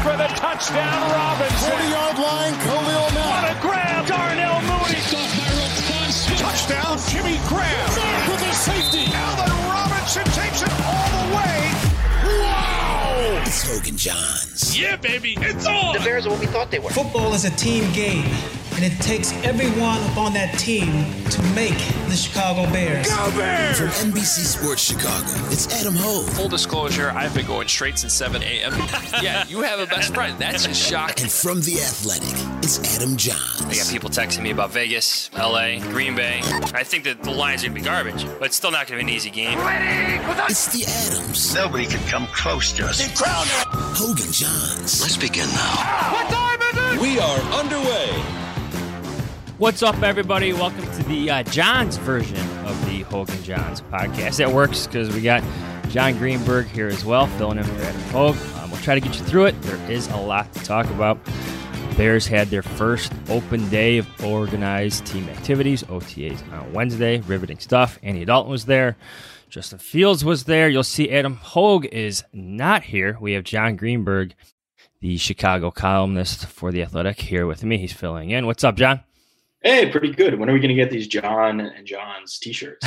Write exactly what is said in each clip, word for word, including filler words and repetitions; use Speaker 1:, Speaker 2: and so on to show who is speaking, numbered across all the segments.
Speaker 1: for the touchdown, Robinson.
Speaker 2: forty-yard line, Khalil Mack.
Speaker 1: What a grab, Darnell Mooney. Touchdown, Jimmy Graham.
Speaker 2: Mack with a safety.
Speaker 1: Allen Robinson takes it all the way.
Speaker 2: Wow!
Speaker 3: It's Hogan Johns.
Speaker 4: Yeah, baby, it's on.
Speaker 5: The Bears are what we thought they were.
Speaker 6: Football is a team game, and it takes everyone on that team to make the Chicago Bears.
Speaker 1: Go Bears!
Speaker 3: From N B C Sports Chicago, it's Adam Hogue.
Speaker 7: Full disclosure, I've been going straight since seven a.m. Yeah, you have a best friend. That's a shock.
Speaker 3: And from The Athletic, it's Adam Johns.
Speaker 7: I got people texting me about Vegas, L A, Green Bay. I think that the line's going to be garbage, but it's still not going to be an easy game.
Speaker 3: It's the Adams.
Speaker 8: Nobody can come close to us.
Speaker 3: Hogan Johns.
Speaker 8: Let's begin now.
Speaker 1: What time is it?
Speaker 9: We are underway.
Speaker 10: What's up, everybody? Welcome to the uh, Johns version of the Hogan Johns podcast. That works because we got John Greenberg here as well, filling in for Adam Hogue. Um, we'll try to get you through it. There is a lot to talk about. Bears had their first open day of organized team activities, O T As, on Wednesday. Riveting stuff. Andy Dalton was there. Justin Fields was there. You'll see Adam Hogue is not here. We have John Greenberg, the Chicago columnist for The Athletic, here with me. He's filling in. What's up, John?
Speaker 11: Hey, pretty good. When are we going to get these John and John's t-shirts?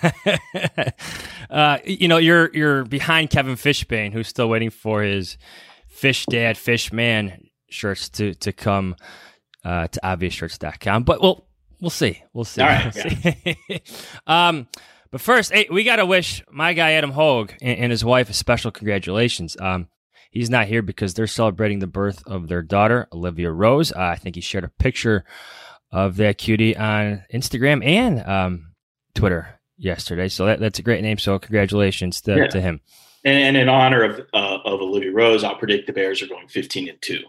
Speaker 10: uh, you know, you're you're behind Kevin Fishbane, who's still waiting for his Fish Dad, Fish Man shirts to to come uh, to obvious shirts dot com. But we'll we'll see. We'll see.
Speaker 11: All right.
Speaker 10: We'll
Speaker 11: Yeah.
Speaker 10: see. um, but first, hey, we got to wish my guy Adam Hogue and, and his wife a special congratulations. Um, he's not here because they're celebrating the birth of their daughter, Olivia Rose. Uh, I think he shared a picture of that cutie on Instagram and um, Twitter yesterday. So that, that's a great name. So congratulations to,
Speaker 11: Yeah.
Speaker 10: to him.
Speaker 11: And, and in honor of uh, of Olivia Rose, I'll predict the Bears are going fifteen and two.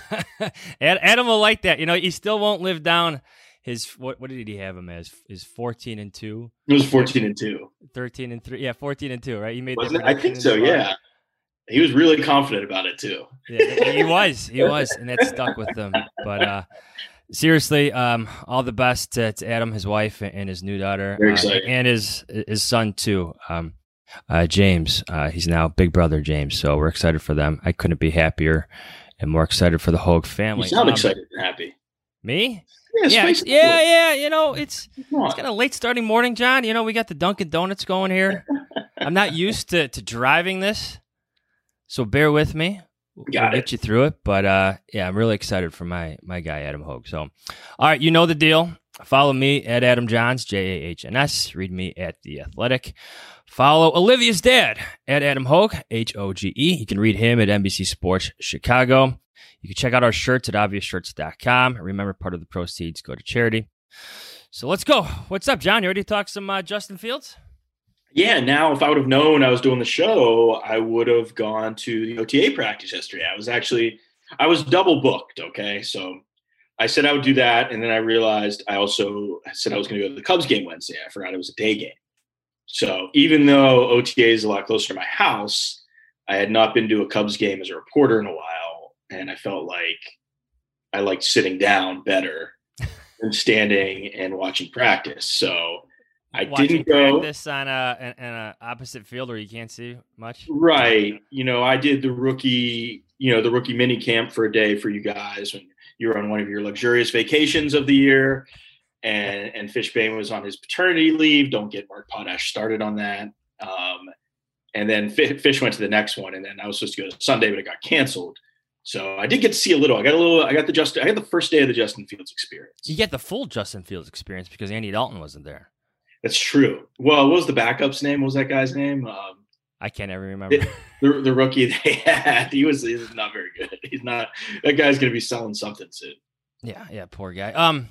Speaker 10: Adam will like that. You know, he still won't live down his, what, what did he have him as? His fourteen and two?
Speaker 11: It was fourteen and two.
Speaker 10: thirteen and three. Yeah, fourteen and two, right? He made
Speaker 11: Wasn't
Speaker 10: that
Speaker 11: it? I think so,
Speaker 10: prediction in the
Speaker 11: yeah. He was really confident about it, too.
Speaker 10: Yeah, he was. He was. And that stuck with him. But uh, seriously, um, all the best to, to Adam, his wife, and his new daughter.
Speaker 11: Very
Speaker 10: uh,
Speaker 11: exciting.
Speaker 10: and his his son, too, um, uh, James. Uh, he's now big brother James. So we're excited for them. I couldn't be happier and more excited for the Hogue family.
Speaker 11: You sound
Speaker 10: Um,
Speaker 11: excited and happy.
Speaker 10: Me?
Speaker 11: Yeah,
Speaker 10: Yeah,
Speaker 11: spice
Speaker 10: yeah,
Speaker 11: it up.
Speaker 10: yeah. You know, it's
Speaker 11: Come on.
Speaker 10: it's kind of late starting morning, John. You know, we got the Dunkin' Donuts going here. I'm not used to, to driving this, so bear with me. We'll
Speaker 11: Got
Speaker 10: get
Speaker 11: it.
Speaker 10: you through it, but uh, yeah, I'm really excited for my my guy Adam Hogue. So, all right, you know the deal. Follow me at Adam Johns, J A H N S. Read me at The Athletic. Follow Olivia's dad at Adam Hogue, H O G E. You can read him at N B C Sports Chicago. You can check out our shirts at obvious shirts dot com. Remember, part of the proceeds go to charity. So let's go. What's up, John? You ready to talk some uh, Justin Fields?
Speaker 11: Yeah, now if I would have known I was doing the show, I would have gone to the O T A practice yesterday. I was actually, I was double booked, okay? So I said I would do that, and then I realized I also said I was going to go to the Cubs game Wednesday. I forgot it was a day game. So even though O T A is a lot closer to my house, I had not been to a Cubs game as a reporter in a while, and I felt like I liked sitting down better than standing and watching practice. So I
Speaker 10: Watching
Speaker 11: didn't go
Speaker 10: practice on a, in a opposite field where you can't see much.
Speaker 11: right. You know, I did the rookie, you know, the rookie mini camp for a day for you guys when you were on one of your luxurious vacations of the year, and and Fishbane was on his paternity leave. Don't get Mark Potash started on that. Um, and then Fish went to the next one, and then I was supposed to go to Sunday, but it got canceled. So I did get to see a little. I got a little. I got the Justin. I got the first day of the Justin Fields experience.
Speaker 10: You get the full Justin Fields experience because Andy Dalton wasn't there.
Speaker 11: That's true. Well, what was the backup's name? What was that guy's name? Um,
Speaker 10: I can't ever remember.
Speaker 11: the, the, the rookie they had. He was, he was not very good. He's not. That guy's going to be selling something soon.
Speaker 10: Yeah, yeah, poor guy. Um,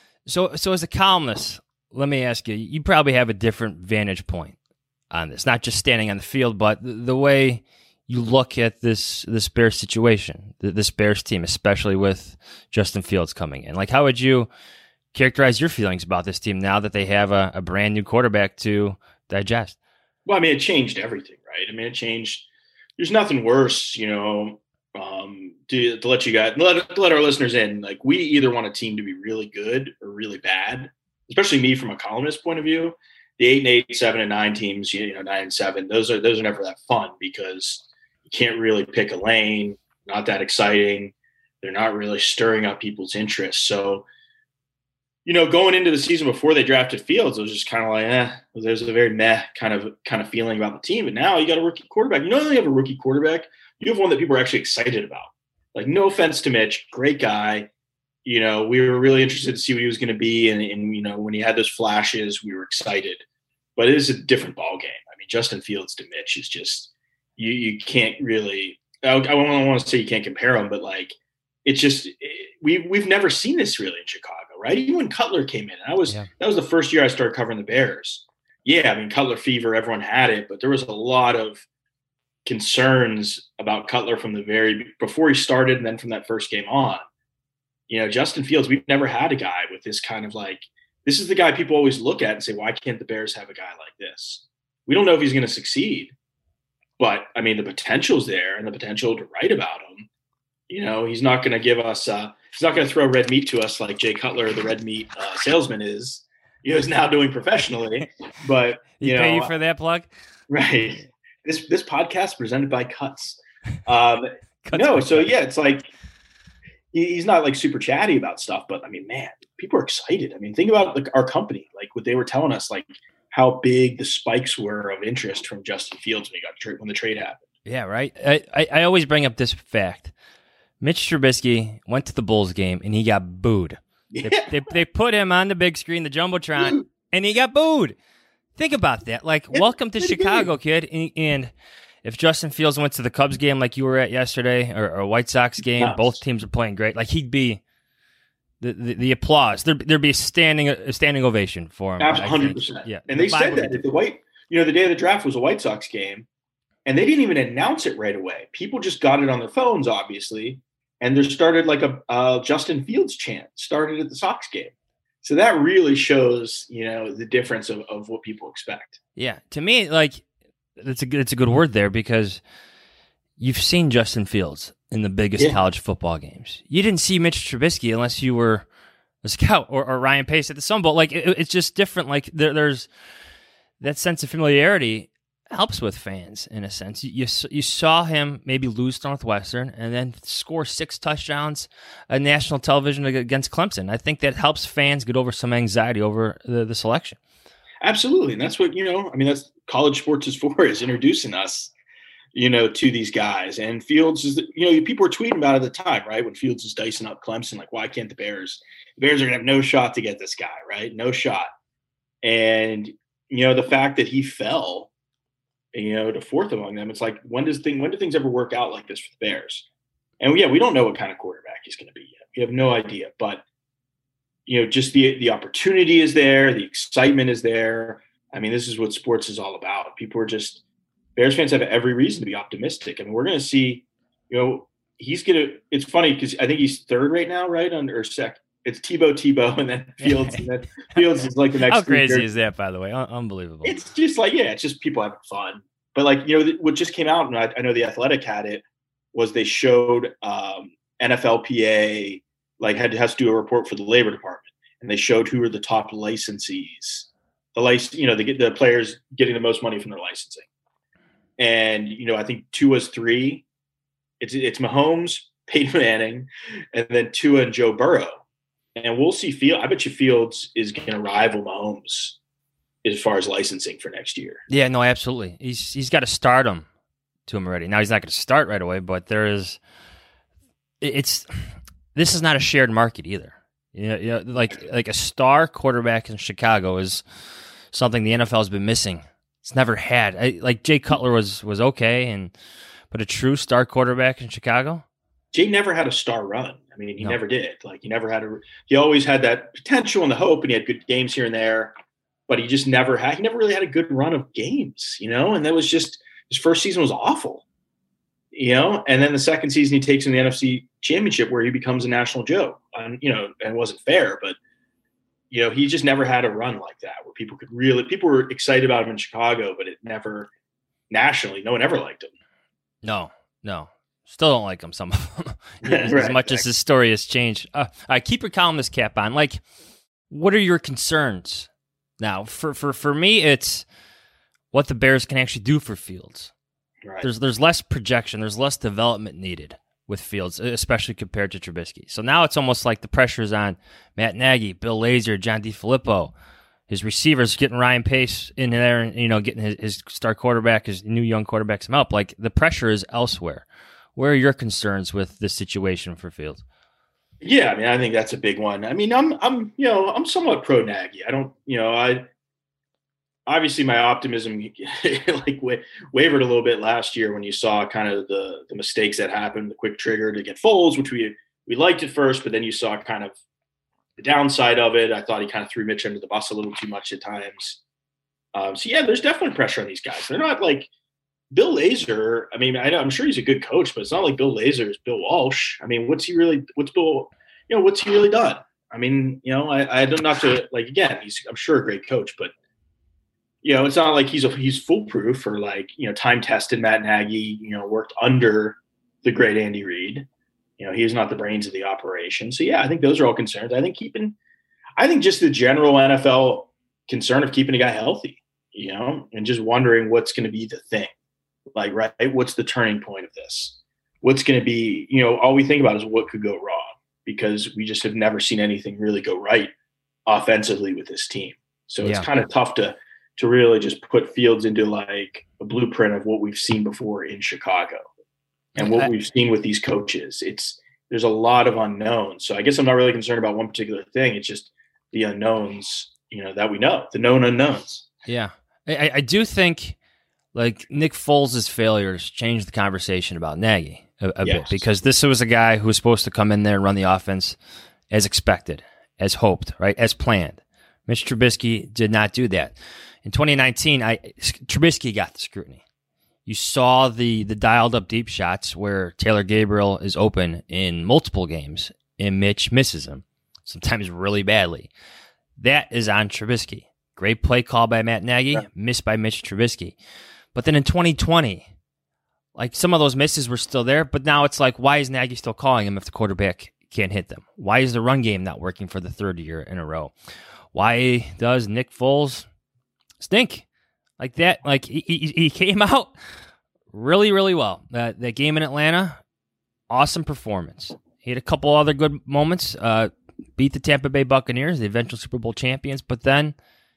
Speaker 10: so so as a columnist, let me ask you. You probably have a different vantage point on this, not just standing on the field, but the, the way you look at this this Bears situation, this Bears team, especially with Justin Fields coming in. Like, how would you characterize your feelings about this team now that they have a, a brand new quarterback to digest?
Speaker 11: Well, I mean, it changed everything, right? I mean, it changed. There's nothing worse, you know, um, to, to let you guys, let, to let our listeners in. Like, we either want a team to be really good or really bad, especially me from a columnist point of view. The eight and eight, seven and nine teams, you know, nine and seven, those are those are never that fun because you can't really pick a lane. not that exciting. They're not really stirring up people's interest. So, you know, going into the season before they drafted Fields, it was just kind of like, eh, there's a very meh kind of kind of feeling about the team. But now you got a rookie quarterback. You know, you have a rookie quarterback. You have one that people are actually excited about. Like, no offense to Mitch, great guy. You know, we were really interested to see what he was going to be. And, and, you know, when he had those flashes, we were excited. But it is a different ball game. I mean, Justin Fields to Mitch is just, you you can't really, I, I don't want to say you can't compare them, but like, it's just, it, we, we've never seen this really in Chicago, right? Even when Cutler came in, I was, yeah. that was the first year I started covering the Bears. Yeah, I mean, Cutler fever, everyone had it, but there was a lot of concerns about Cutler from the very, before he started and then from that first game on. You know, Justin Fields, we've never had a guy with this kind of like, this is the guy people always look at and say, why can't the Bears have a guy like this? We don't know if he's going to succeed, but I mean, the potential's there and the potential to write about him. You know, he's not going to give us, uh, he's not going to throw red meat to us like Jay Cutler, the red meat uh, salesman is, you know, is now doing professionally. But, you
Speaker 10: he
Speaker 11: know,
Speaker 10: pay you for that plug?
Speaker 11: Right. This, this podcast presented by Cuts. Um,
Speaker 10: Cuts
Speaker 11: no. So yeah, it's like, he's not like super chatty about stuff, but I mean, man, people are excited. I mean, think about like our company, like what they were telling us, like how big the spikes were of interest from Justin Fields when he got tra- when the trade happened.
Speaker 10: Yeah, right. I, I, I always bring up this fact. Mitch Trubisky went to the Bulls game and he got booed. Yeah. They, they, they put him on the big screen, the Jumbotron, and he got booed. Think about that. Like, yeah, welcome to Chicago, kid. And, and if Justin Fields went to the Cubs game like you were at yesterday, or, or a White Sox game, nice. Both teams are playing great. Like, he'd be the the, the applause. There, there'd be a standing a standing ovation for him.
Speaker 11: one hundred percent. Yeah, and they the said that the white, you know, the day of the draft was a White Sox game, and they didn't even announce it right away. People just got it on their phones, obviously, and there started like a uh, Justin Fields chant started at the Sox game. So that really shows, you know, the difference of, of what people expect.
Speaker 10: Yeah, to me, like. That's a good, it's a good word there because you've seen Justin Fields in the biggest yeah. college football games. You didn't see Mitch Trubisky unless you were a scout or, or Ryan Pace at the Sun Bowl. Like it, it's just different. Like there, there's that sense of familiarity helps with fans in a sense. You, you you saw him maybe lose to Northwestern and then score six touchdowns on national television against Clemson. I think that helps fans get over some anxiety over the, the selection.
Speaker 11: Absolutely. And that's what, you know, I mean, that's college sports is for, is introducing us, you know, to these guys. And Fields is, you know, people were tweeting about it at the time, right? When Fields is dicing up Clemson, like, why can't the Bears, the Bears are going to have no shot to get this guy, right? No shot. And, you know, the fact that he fell, you know, to fourth among them, it's like, when does thing, when do things ever work out like this for the Bears? And yeah, we don't know what kind of quarterback he's going to be yet. We have no idea, but you know, just the the opportunity is there, the excitement is there. I mean, this is what sports is all about. People are just Bears fans have every reason to be optimistic. I mean, we're going to see, you know, he's going to. It's funny because I think he's third right now, right under or sec. It's Tebow, Tebow, and then Fields, and then Fields is like the next.
Speaker 10: How crazy years. Is that, by the way? Un- unbelievable.
Speaker 11: It's just like yeah, it's just people having fun. But like you know, what just came out, and I, I know the Athletic had it, was they showed um, N F L P A. Like had has to do a report for the labor department, and they showed who were the top licensees, the license, you know, they get the players getting the most money from their licensing. And you know, I think Tua's three. It's it's Mahomes, Peyton Manning, and then Tua and Joe Burrow. And we'll see. Field, I bet you Fields is going to rival Mahomes as far as licensing for next year.
Speaker 10: Yeah, no, absolutely. He's he's got to start him to him already. Now he's not going to start right away, but there is. It's. This is not a shared market either. You know, you know, like like a star quarterback in Chicago is something the N F L has been missing. It's never had. I, like Jay Cutler was was okay, and but a true star quarterback in Chicago.
Speaker 11: Jay never had a star run. I mean, he no. never did. Like he never had a. He always had that potential and the hope, and he had good games here and there, but he just never had. He never really had a good run of games, you know. And that was just his first season was awful. You know, and then the second season he takes in the N F C Championship where he becomes a national joke. And, you know, and it wasn't fair, but, you know, he just never had a run like that where people could really – people were excited about him in Chicago, but it never – nationally, no one ever liked him.
Speaker 10: No, no. Still don't like him, some of them, as,
Speaker 11: right,
Speaker 10: as much
Speaker 11: exactly.
Speaker 10: as his story has changed. Uh, I keep your columnist cap on. Like, what are your concerns now? For, for, for me, it's what the Bears can actually do for Fields.
Speaker 11: Right.
Speaker 10: There's there's less projection. There's less development needed. with Fields, especially compared to Trubisky. So now it's almost like the pressure's on Matt Nagy, Bill Lazor, John DeFilippo, his receivers getting Ryan Pace in there and, you know, getting his, his star quarterback, his new young quarterback some help. Like, the pressure is elsewhere. Where are your concerns with this situation for Fields?
Speaker 11: Yeah, I mean, I think that's a big one. I mean, I'm, I'm, you know, I'm somewhat pro Nagy. I don't, you know, I obviously my optimism like wa- wavered a little bit last year when you saw kind of the the mistakes that happened, the quick trigger to get Foles, which we we liked at first, but then you saw kind of the downside of it. I thought he kind of threw Mitch under the bus a little too much at times. Um, so yeah, there's definitely pressure on these guys. They're not like Bill Lazor. I mean, I know, I'm sure he's a good coach, but it's not like Bill Lazor is Bill Walsh. I mean, what's he really? What's Bill? You know, what's he really done? I mean, you know, I, I don't not to like again. He's I'm sure a great coach, but you know, it's not like he's a, he's foolproof or like you know time tested. Matt Nagy, you know, worked under the great Andy Reid. You know, he's not the brains of the operation. So yeah, I think those are all concerns. I think keeping, I think just the general N F L concern of keeping a guy healthy. You know, and just wondering what's going to be the thing. Like, right, what's the turning point of this? What's going to be, you know, all we think about is what could go wrong because we just have never seen anything really go right offensively with this team. So it's
Speaker 10: yeah.
Speaker 11: kind of tough to to really just put Fields into like a blueprint of what we've seen before in Chicago and what we've seen with these coaches. It's there's a lot of unknowns. So I guess I'm not really concerned about one particular thing. It's just the unknowns, you know, that we know, the known unknowns.
Speaker 10: Yeah, I, I do think. Like Nick Foles' failures changed the conversation about Nagy a, a
Speaker 11: yes.
Speaker 10: bit because this was a guy who was supposed to come in there and run the offense as expected, as hoped, right, as planned. Mitch Trubisky did not do that. In twenty nineteen, I Trubisky got the scrutiny. You saw the the dialed up deep shots where Taylor Gabriel is open in multiple games and Mitch misses him, sometimes really badly. That is on Trubisky. Great play call by Matt Nagy, yeah. missed by Mitch Trubisky. But then in twenty twenty, like some of those misses were still there, but now it's like, why is Nagy still calling him if the quarterback can't hit them? Why is the run game not working for the third year in a row? Why does Nick Foles stink like that? Like he, he, he came out really, really well. That that game in Atlanta, awesome performance. He had a couple other good moments. Uh, beat the Tampa Bay Buccaneers, the eventual Super Bowl champions, but then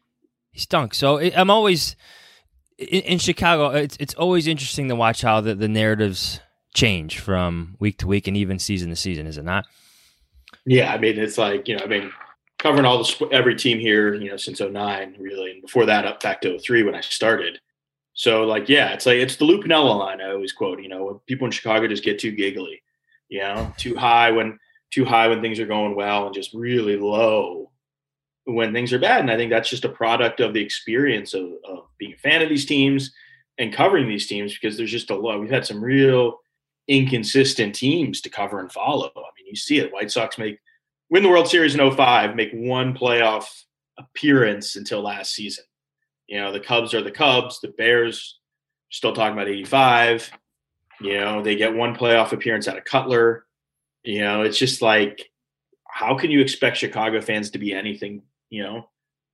Speaker 10: he stunk. So it, I'm always. In, in Chicago, it's it's always interesting to watch how the, the narratives change from week to week and even season to season, is it not?
Speaker 11: Yeah, I mean, it's like, you know, I mean, covering all the every team here, you know, since oh nine, really, and before that up back to oh three when I started. So, like, yeah, it's like it's the Lou Piniella line I always quote, you know, when people in Chicago just get too giggly, you know, too high when too high when things are going well and just really low when things are bad. And I think that's just a product of the experience of, of being a fan of these teams and covering these teams because there's just a lot. We've had some real inconsistent teams to cover and follow. I mean, you see it. White Sox make win the World Series in oh five, make one playoff appearance until last season. You know, the Cubs are the Cubs. The Bears still talking about eighty-five. You know, they get one playoff appearance out of Cutler. You know, it's just like, how can you expect Chicago fans to be anything, you know,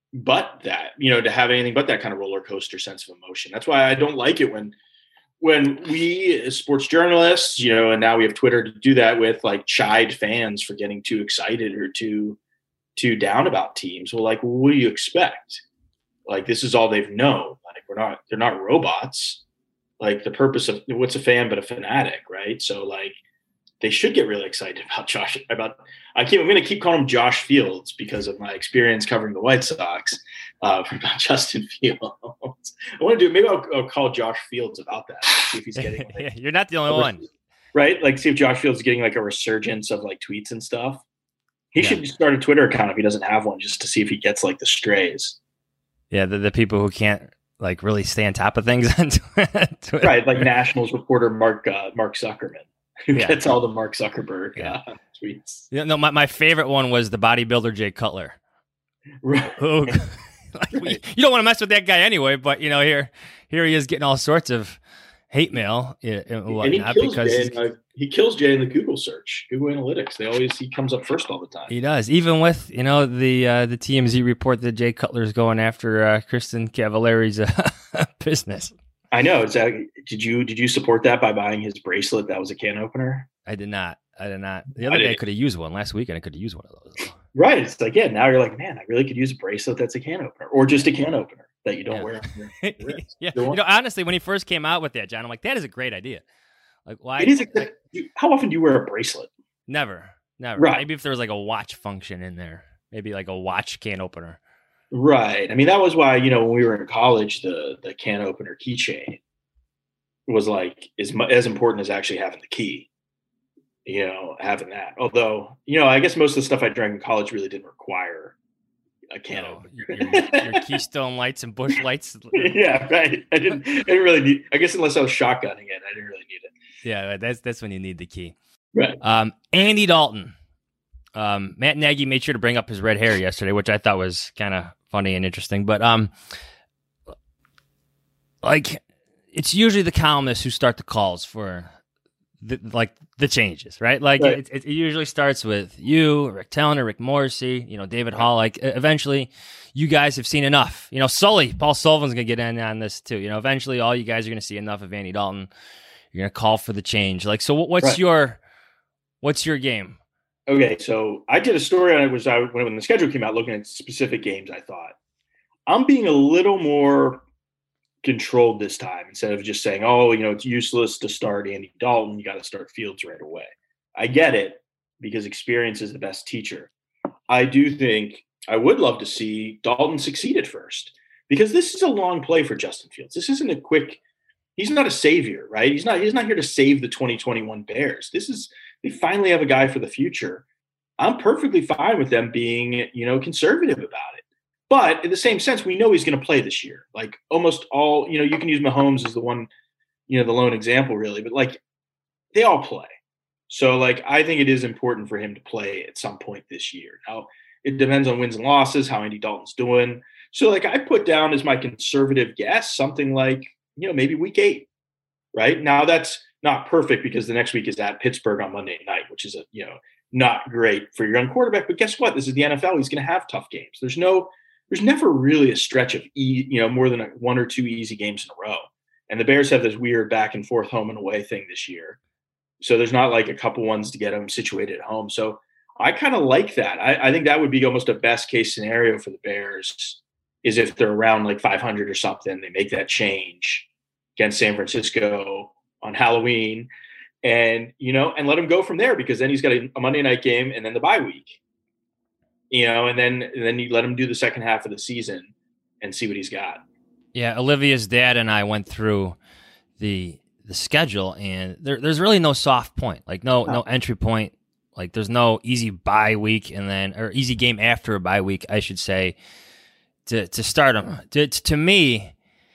Speaker 11: but that, you know, to have anything but that kind of roller coaster sense of emotion. That's why I don't like it when, when we as sports journalists, you know, and now we have Twitter to do that with, like, chide fans for getting too excited or too, too down about teams. Well, like, what do you expect? Like, this is all they've known. Like, we're not, they're not robots. Like, the purpose of what's a fan but a fanatic, right? So, like, they should get really excited about Josh. About I keep I'm going to keep calling him Josh Fields because of my experience covering the White Sox. Uh, about Justin Fields, I want to do maybe I'll, I'll call Josh Fields about that. See if he's getting. Like,
Speaker 10: yeah, you're not the only one,
Speaker 11: right? Like, see if Josh Fields is getting like a resurgence of like tweets and stuff. He
Speaker 10: yeah.
Speaker 11: should start a Twitter account if he doesn't have one, just to see if he gets like the strays.
Speaker 10: Yeah, the the people who can't like really stay on top of things on Twitter.
Speaker 11: Right? Like Nationals reporter Mark uh, Mark Zuckerman. Who
Speaker 10: yeah.
Speaker 11: gets all the Mark Zuckerberg
Speaker 10: yeah.
Speaker 11: uh, tweets?
Speaker 10: Yeah, no, my, my favorite one was the bodybuilder Jay Cutler.
Speaker 11: Right.
Speaker 10: Who, like, we, you don't want to mess with that guy anyway, but you know, here here he is getting all sorts of hate mail and whatnot,
Speaker 11: and he kills
Speaker 10: because
Speaker 11: Jay in, uh, he kills Jay in the Google search, Google Analytics. They always he comes up first all the time.
Speaker 10: He does, even with you know the uh, the T M Z report that Jay Cutler's going after uh, Kristen Cavallari's uh, business.
Speaker 11: I know. Is that, did you did you support that by buying his bracelet? That was a can opener.
Speaker 10: I did not. I did not. The other I day I could have used one. Last weekend I could have used one of those.
Speaker 11: Right. It's like, yeah, now you're like, man, I really could use a bracelet that's a can opener or just a can opener that you don't
Speaker 10: yeah.
Speaker 11: wear. On your
Speaker 10: yeah. You know, honestly, when he first came out with that, John, I'm like, that is a great idea. Like, why?
Speaker 11: It is. A,
Speaker 10: like,
Speaker 11: how often do you wear a bracelet?
Speaker 10: Never. Never.
Speaker 11: Right.
Speaker 10: Maybe if there was like a watch function in there, maybe like a watch can opener.
Speaker 11: Right. I mean, that was why, you know, when we were in college, the the can opener keychain was like as, as important as actually having the key. You know, having that. Although, you know, I guess most of the stuff I drank in college really didn't require a can
Speaker 10: no,
Speaker 11: opener.
Speaker 10: Your, your Keystone Lights and Busch Lights.
Speaker 11: Yeah, right. I didn't. I didn't really need. I guess unless I was shotgunning it, I didn't really need it.
Speaker 10: Yeah, that's that's when you need the key.
Speaker 11: Right.
Speaker 10: Um, Andy Dalton. Um, Matt Nagy made sure to bring up his red hair yesterday, which I thought was kind of funny and interesting. But um, like, it's usually the columnists who start the calls for. The, like the changes, right? Like
Speaker 11: right.
Speaker 10: It, it usually starts with you, Rick Tellner, Rick Morrissey, you know, David Hall. Like eventually, you guys have seen enough. You know, Sully, Paul Sullivan's gonna get in on this too. You know, eventually, all you guys are gonna see enough of Andy Dalton. You're gonna call for the change. Like, so what's right. your what's your game?
Speaker 11: Okay, so I did a story on it. Was I when the schedule came out, looking at specific games. I thought I'm being a little more controlled this time instead of just saying, oh, you know, it's useless to start Andy Dalton. You got to start Fields right away. I get it because experience is the best teacher. I do think I would love to see Dalton succeed at first because this is a long play for Justin Fields. This isn't a quick, he's not a savior, right? He's not, he's not here to save the twenty twenty-one Bears. This is, they finally have a guy for the future. I'm perfectly fine with them being, you know, conservative about it. But in the same sense, we know he's going to play this year. Like almost all, you know, you can use Mahomes as the one, you know, the lone example really, but like they all play. So like, I think it is important for him to play at some point this year. Now it depends on wins and losses, how Andy Dalton's doing. So like I put down as my conservative guess, something like, you know, maybe week eight, right? Now that's not perfect because the next week is at Pittsburgh on Monday night, which is a, you know, not great for your young quarterback, but guess what? This is the N F L. He's going to have tough games. There's no, There's never really a stretch of, e, you know, more than a, one or two easy games in a row. And the Bears have this weird back and forth home and away thing this year. So there's not like a couple ones to get them situated at home. So I kind of like that. I, I think that would be almost a best case scenario for the Bears is if they're around like five hundred or something, they make that change against San Francisco on Halloween and, you know, and let him go from there because then he's got a, a Monday night game and then the bye week. You know, and then and then you let him do the second half of the season and see what he's got.
Speaker 10: Yeah, Olivia's dad and I went through the the schedule, and there, there's really no soft point, like no oh. no entry point. Like there's no easy bye week and then or easy game after a bye week, I should say, to to start him. To, to me,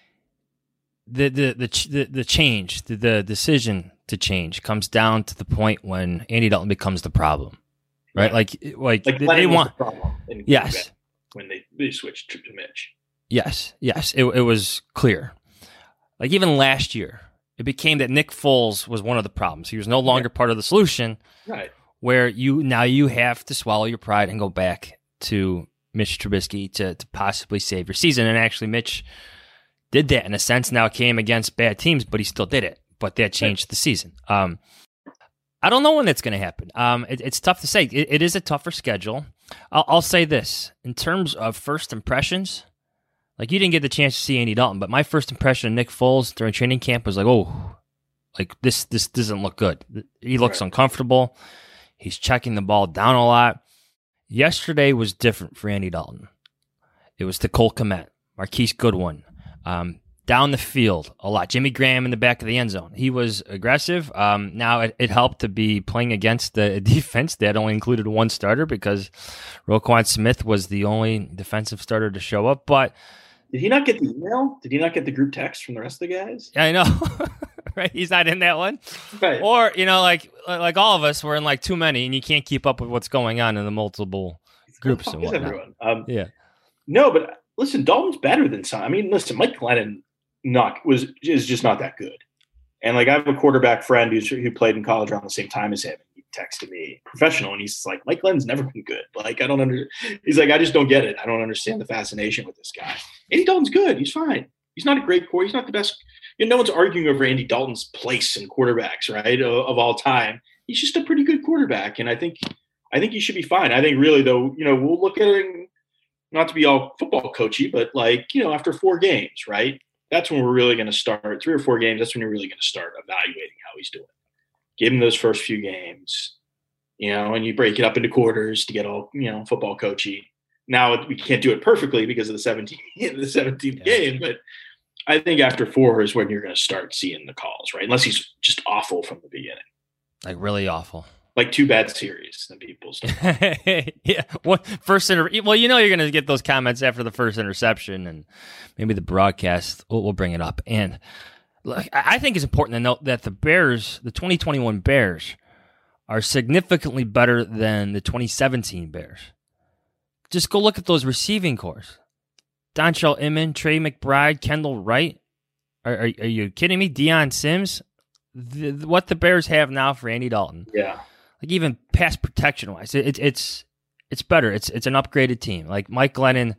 Speaker 10: the the the the, the change, the, the decision to change comes down to the point when Andy Dalton becomes the problem. Right, like, like,
Speaker 11: like
Speaker 10: they, they want.
Speaker 11: The problem in
Speaker 10: yes,
Speaker 11: when they, they switched to Mitch.
Speaker 10: Yes, yes, it it was clear. Like even last year, it became that Nick Foles was one of the problems. He was no longer part of the solution.
Speaker 11: Right.
Speaker 10: Where you now you have to swallow your pride and go back to Mitch Trubisky to to possibly save your season. And actually, Mitch did that in a sense. Now it came against bad teams, but he still did it. But that changed right. the season. Um. I don't know when that's going to happen. Um, it, it's tough to say. It, it is a tougher schedule. I'll, I'll say this. In terms of first impressions, like you didn't get the chance to see Andy Dalton, but my first impression of Nick Foles during training camp was like, oh, like this this doesn't look good. He looks right. uncomfortable. He's checking the ball down a lot. Yesterday was different for Andy Dalton. It was to Cole Kmet, Marquise Goodwin, um, down the field a lot. Jimmy Graham in the back of the end zone. He was aggressive. Um, now it, it helped to be playing against the defense that only included one starter because Roquan Smith was the only defensive starter to show up. But
Speaker 11: did he not get the email? Did he not get the group text from the rest of the guys?
Speaker 10: I know, right? He's not in that one.
Speaker 11: Right.
Speaker 10: Or, you know, like like all of us, we're in like too many and you can't keep up with what's going on in the multiple groups and whatnot.
Speaker 11: Everyone. Um,
Speaker 10: yeah.
Speaker 11: No, but listen, Dalton's better than some. I mean, listen, Mike Glennon Not was is just not that good, and like I have a quarterback friend who's who played in college around the same time as him. He texted me, professional, and he's like, Mike Glenn's never been good. Like I don't under. He's like, I just don't get it. I don't understand the fascination with this guy. Andy Dalton's good. He's fine. He's not a great quarterback. He's not the best. You know, no one's arguing over Andy Dalton's place in quarterbacks, right, of, of all time. he's just a pretty good quarterback. And I think, I think he should be fine. I think really though, you know, we'll look at it, not to be all football coachy, but like, you know, after four games, right? That's when we're really going to start three or four games. That's when you're really going to start evaluating how he's doing. Give him those first few games, you know, and you break it up into quarters to get all, you know, football coachy. Now we can't do it perfectly because of the seventeenth, the seventeenth yeah. game, but I think after four is when you're going to start seeing the calls, right? Unless he's just awful from the beginning.
Speaker 10: Like really awful.
Speaker 11: Like two bad series than people's.
Speaker 10: yeah. Well, first inter- well, you know you're going to get those comments after the first interception, and maybe the broadcast will will bring it up. And look, I think it's important to note that the Bears, the twenty twenty-one Bears, are significantly better than the twenty seventeen Bears. Just go look at those receiving cores. Dontrell Inman, Trey McBride, Kendall Wright. Are, are, are you kidding me? Deion Sims? The, what the Bears have now for Andy Dalton.
Speaker 11: Yeah.
Speaker 10: Like even pass protection wise, it, it, it's it's better. It's it's an upgraded team. Like Mike Glennon,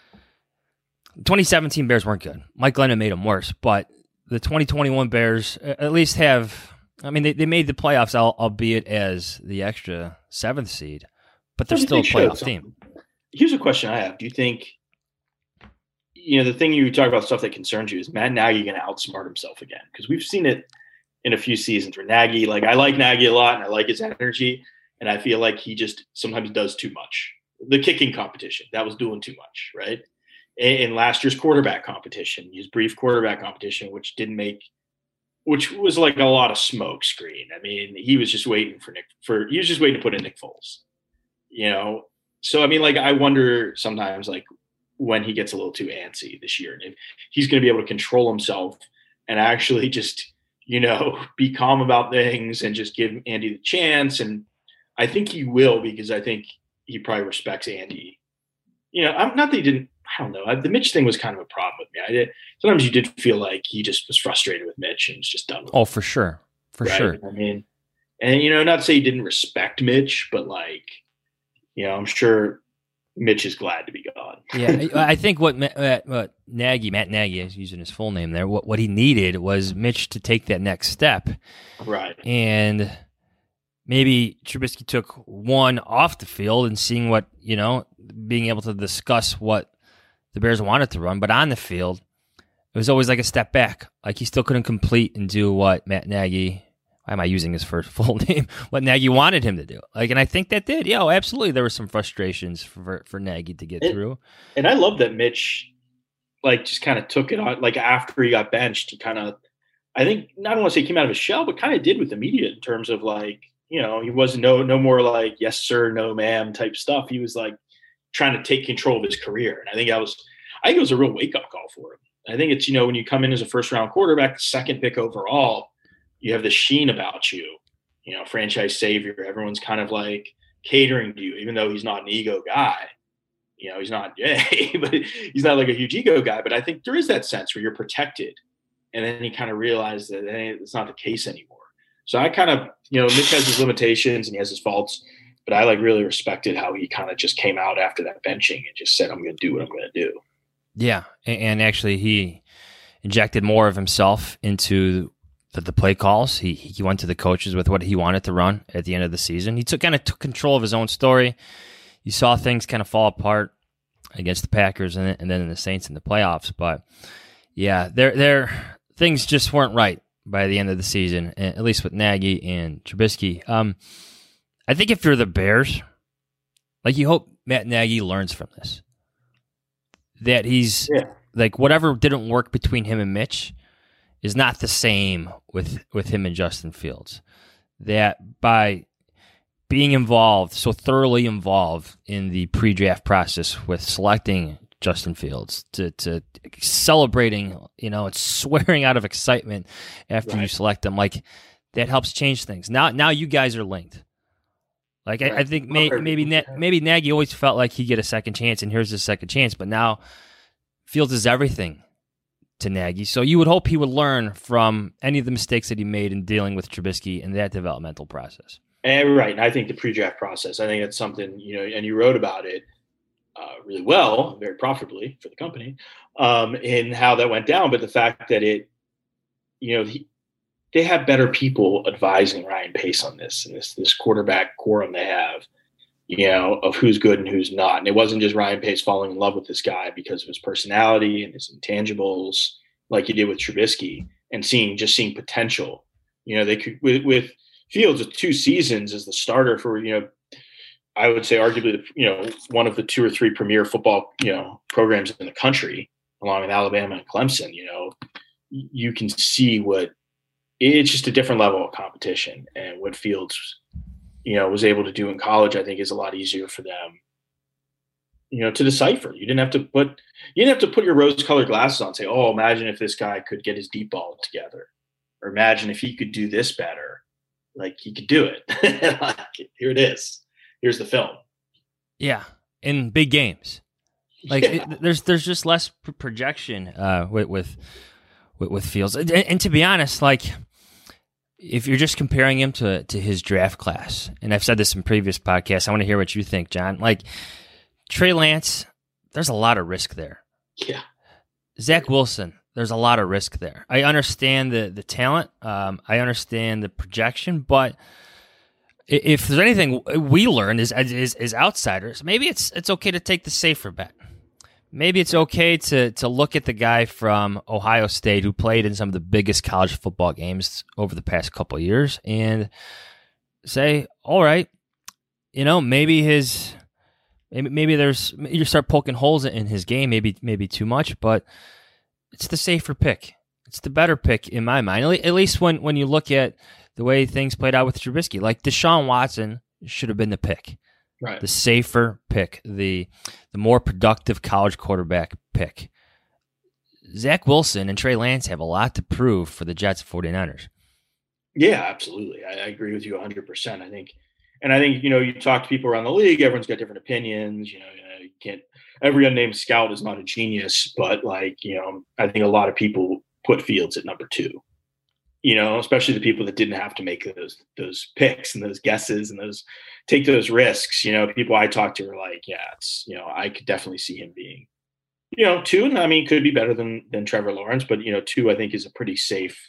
Speaker 10: twenty seventeen Bears weren't good. Mike Glennon made them worse, but the twenty twenty-one Bears at least have. I mean, they, they made the playoffs, albeit as the extra seventh seed, but they're still a playoff team.
Speaker 11: Here's a question I have: do you think, you know, the thing you talk about stuff that concerns you is Matt Nagy going to outsmart himself again? Because we've seen it in a few seasons where Nagy, like I like Nagy a lot and I like his energy, and I feel like he just sometimes does too much. The kicking competition, that was doing too much, right? In last year's quarterback competition, his brief quarterback competition, which didn't make, which was like a lot of smoke screen. I mean, he was just waiting for Nick, for he was just waiting to put in Nick Foles, you know? So, I mean, like, I wonder sometimes, like, when he gets a little too antsy this year, and if he's going to be able to control himself and actually just, you know, be calm about things and just give Andy the chance. And I think he will, because I think he probably respects Andy. You know, I'm not that he didn't, I don't know. I, the Mitch thing was kind of a problem with me. I did, sometimes you did feel like he just was frustrated with Mitch and was just done with
Speaker 10: Oh,
Speaker 11: him,
Speaker 10: for sure. For
Speaker 11: right?
Speaker 10: sure.
Speaker 11: I mean, and, you know, not to say he didn't respect Mitch, but like, you know, I'm sure Mitch is glad to be gone.
Speaker 10: yeah, I think what, what Nagy, Matt Nagy, is using his full name there, what, what he needed was Mitch to take that next step.
Speaker 11: Right.
Speaker 10: And maybe Trubisky took one off the field and seeing what, you know, being able to discuss what the Bears wanted to run, but on the field, it was always like a step back. Like he still couldn't complete and do what Matt Nagy, why am I using his first full name? What Nagy wanted him to do. Like, and I think that did. Yeah, absolutely. There were some frustrations for for Nagy to get
Speaker 11: and,
Speaker 10: through.
Speaker 11: And I love that Mitch, like, just kind of took it on. Like, after he got benched, he kind of, I think, I don't want to say he came out of his shell, but kind of did with the media in terms of, like, you know, he was no no more like, yes, sir, no, ma'am type stuff. He was, like, trying to take control of his career. And I think that was, I think it was a real wake-up call for him. I think it's, you know, when you come in as a first-round quarterback, the second pick overall, you have this sheen about you, you know, franchise savior. Everyone's kind of like catering to you, even though he's not an ego guy. You know, he's not, yeah, but he's not like a huge ego guy. But I think there is that sense where you're protected. And then he kind of realized that hey, it's not the case anymore. So I kind of, you know, Mitch has his limitations and he has his faults, but I like really respected how he kind of just came out after that benching and just said, I'm going to do what I'm going to do.
Speaker 10: Yeah. And actually he injected more of himself into the, the play calls. He he went to the coaches with what he wanted to run at the end of the season. He took kind of took control of his own story. You saw things kind of fall apart against the Packers and, and then in the Saints in the playoffs. But yeah, there there things just weren't right by the end of the season, at least with Nagy and Trubisky. Um, I think if you're the Bears, like you hope Matt Nagy learns from this, that he's
Speaker 11: yeah.
Speaker 10: like whatever didn't work between him and Mitch is not the same with, with him and Justin Fields. That by being involved, so thoroughly involved in the pre-draft process with selecting Justin Fields, to, to celebrating, you know, it's swearing out of excitement after right. you select them, like that helps change things. Now, now you guys are linked. Like right. I, I think may, maybe maybe Nagy always felt like he'd get a second chance, and here's his second chance. But now Fields is everything to Nagy, so you would hope he would learn from any of the mistakes that he made in dealing with Trubisky in that developmental process.
Speaker 11: And right, and I think the pre-draft process, I think that's something, you know, and you wrote about it uh, really well, very profitably for the company, um, in how that went down. But the fact that it, you know, he, they have better people advising Ryan Pace on this and this this quarterback quorum they have, you know, of who's good and who's not. And it wasn't just Ryan Pace falling in love with this guy because of his personality and his intangibles, like he did with Trubisky, and seeing just seeing potential. You know, they could with, with Fields with two seasons as the starter for, you know, I would say arguably, you know, one of the two or three premier football, you know, programs in the country, along with Alabama and Clemson. You know, you can see what it's just a different level of competition, and what Fields, you know, was able to do in college, I think, is a lot easier for them, you know, to decipher. You didn't have to put you didn't have to put your rose-colored glasses on and say, "Oh, imagine if this guy could get his deep ball together," or imagine if he could do this better. Like, he could do it. Like, here it is. Here's the film.
Speaker 10: Yeah, in big games, like
Speaker 11: yeah.
Speaker 10: it, there's there's just less pr- projection uh, with, with with Fields, and, and to be honest, like if you're just comparing him to to his draft class, and I've said this in previous podcasts, I want to hear what you think, John. Like Trey Lance, there's a lot of risk there.
Speaker 11: Yeah.
Speaker 10: Zach Wilson, there's a lot of risk there. I understand the the talent, um, I understand the projection, but if there's anything we learned as, as as outsiders, maybe it's it's okay to take the safer bet. Maybe it's okay to to look at the guy from Ohio State who played in some of the biggest college football games over the past couple of years and say, all right, you know, maybe his maybe maybe there's you start poking holes in his game, maybe maybe too much, but it's the safer pick. It's the better pick in my mind. At least when when you look at the way things played out with Trubisky. Like Deshaun Watson should have been the pick.
Speaker 11: Right.
Speaker 10: The safer pick, the the more productive college quarterback pick. Zach Wilson and Trey Lance have a lot to prove for the Jets and 49ers.
Speaker 11: Yeah, absolutely. I, I agree with you one hundred percent. I think, and I think, you know, you talk to people around the league, everyone's got different opinions. You know, you can't, every unnamed scout is not a genius, but like, you know, I think a lot of people put Fields at number two. You know, especially the people that didn't have to make those those picks and those guesses and those take those risks. You know, people I talked to are like, yeah, it's, you know, I could definitely see him being, you know, two. And I mean, could be better than than Trevor Lawrence, but you know, two I think is a pretty safe.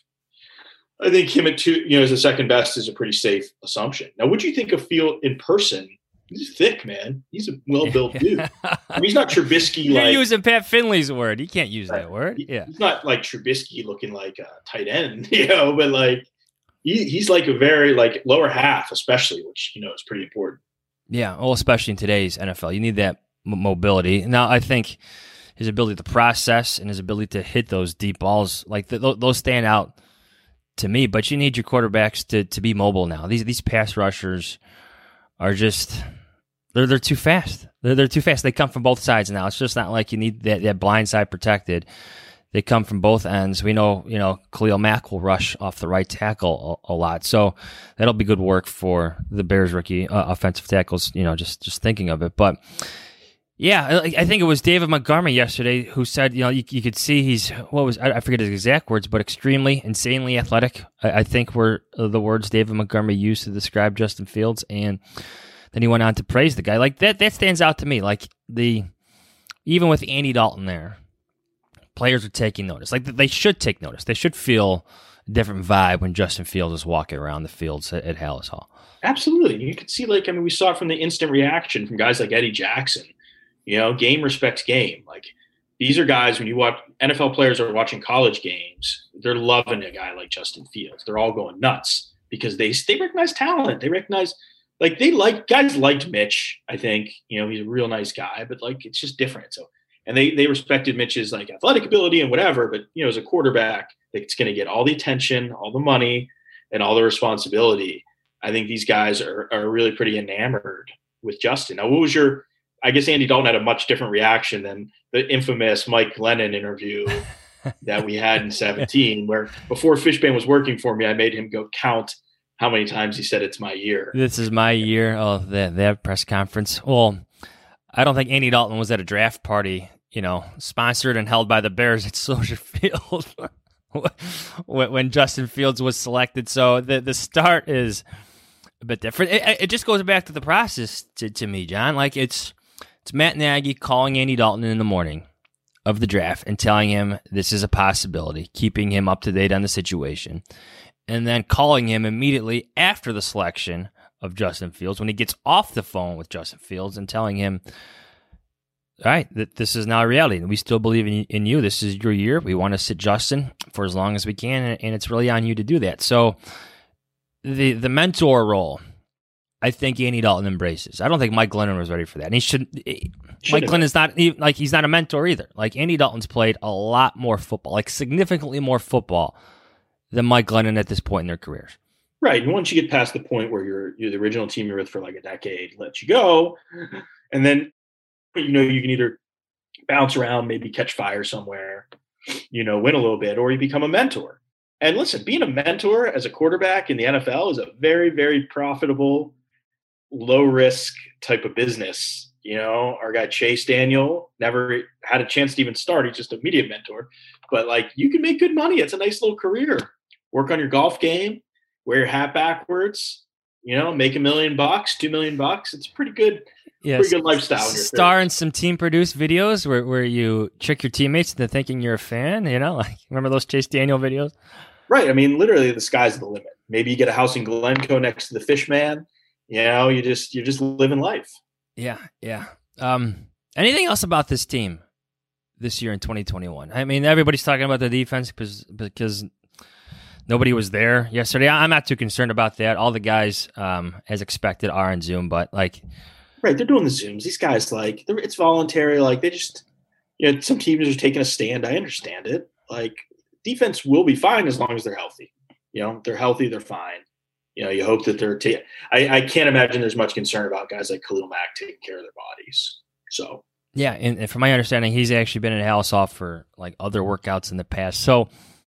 Speaker 11: I think him at two, you know, as the second best is a pretty safe assumption. Now, what do you think of Field in person? He's thick, man. He's a well-built dude. I mean, he's not Trubisky.
Speaker 10: You're
Speaker 11: like,
Speaker 10: using Pat Finley's word. You can't use that word. Yeah,
Speaker 11: he's not like Trubisky looking like a tight end, you know. But like, he, he's like a very like lower half, especially, which you know is pretty important.
Speaker 10: Yeah, well, especially in today's N F L, you need that m- mobility. Now, I think his ability to process and his ability to hit those deep balls, like th- those stand out to me. But you need your quarterbacks to to be mobile now. These these pass rushers are just. They're they're too fast. They're they're too fast. They come from both sides now. It's just not like you need that, that blind side protected. They come from both ends. We know, you know, Khalil Mack will rush off the right tackle a, a lot. So that'll be good work for the Bears rookie uh, offensive tackles, you know, just, just thinking of it. But yeah, I, I think it was David Montgomery yesterday who said, you know, you, you could see he's, what was, I, I forget his exact words, but extremely, insanely athletic. I, I think were the words David Montgomery used to describe Justin Fields. And then he went on to praise the guy. Like that, that stands out to me. Like the, even with Andy Dalton there, players are taking notice. Like they should take notice. They should feel a different vibe when Justin Fields is walking around the fields at, at Hallis Hall.
Speaker 11: Absolutely. You could see, like, I mean, we saw it from the instant reaction from guys like Eddie Jackson. You know, game respects game. Like these are guys, when you watch N F L players are watching college games, they're loving a guy like Justin Fields. They're all going nuts because they they recognize talent. They recognize. Like they like guys liked Mitch, I think, you know, he's a real nice guy, but like, it's just different. So, and they, they respected Mitch's like athletic ability and whatever, but you know, as a quarterback, it's going to get all the attention, all the money and all the responsibility. I think these guys are, are really pretty enamored with Justin. Now, what was your, I guess Andy Dalton had a much different reaction than the infamous Mike Glennon interview that we had in seventeen, where before Fishbane was working for me, I made him go count how many times he said it's my year.
Speaker 10: This is my year. Oh, that that press conference. Well, I don't think Andy Dalton was at a draft party, you know, sponsored and held by the Bears at Soldier Field when Justin Fields was selected. So the the start is a bit different. It, it just goes back to the process to, to me, John. Like it's it's Matt Nagy calling Andy Dalton in the morning of the draft and telling him this is a possibility, keeping him up to date on the situation. and then calling him immediately after the selection of Justin Fields when he gets off the phone with Justin Fields and telling him, all right, that this is now a reality. We still believe in, in you. This is your year. We want to sit Justin for as long as we can, and, and it's really on you to do that. So the the mentor role, I think Andy Dalton embraces. I don't think Mike Glennon was ready for that. And he should. Mike Glennon's not even, like, he's not a mentor either. Like, Andy Dalton's played a lot more football, like significantly more football than Mike Glennon at this point in their careers.
Speaker 11: Right. And once you get past the point where you're, you're the original team you're with for like a decade, let you go. And then, you know, you can either bounce around, maybe catch fire somewhere, you know, win a little bit, or you become a mentor. And listen, being a mentor as a quarterback in the N F L is a very, very profitable, low risk type of business. You know, our guy Chase Daniel never had a chance to even start. He's just a media mentor, but like, you can make good money. It's a nice little career. Work on your golf game, wear your hat backwards, you know, make a million bucks, two million bucks. It's pretty good.
Speaker 10: Yes.
Speaker 11: Pretty good lifestyle.
Speaker 10: Star in some team produced videos where, where you trick your teammates into thinking you're a fan, you know, like, remember those Chase Daniel videos?
Speaker 11: Right. I mean, literally the sky's the limit. Maybe you get a house in Glencoe next to the Fish Man. You know, you just, you're just living life.
Speaker 10: Yeah. Yeah. Um, anything else about this team this year in twenty twenty-one? I mean, everybody's talking about the defense because, because nobody was there yesterday. I'm not too concerned about that. All the guys, um, as expected, are on Zoom, but like,
Speaker 11: right, they're doing the Zooms. These guys, like, it's voluntary. Like, they just, you know, some teams are taking a stand. I understand it. Like, defense will be fine as long as they're healthy. You know, they're healthy, they're fine. You know, you hope that they're ta- – I, I can't imagine there's much concern about guys like Khalil Mack taking care of their bodies. So –
Speaker 10: yeah, and, and from my understanding, he's actually been in Hallisall for, like, other workouts in the past. So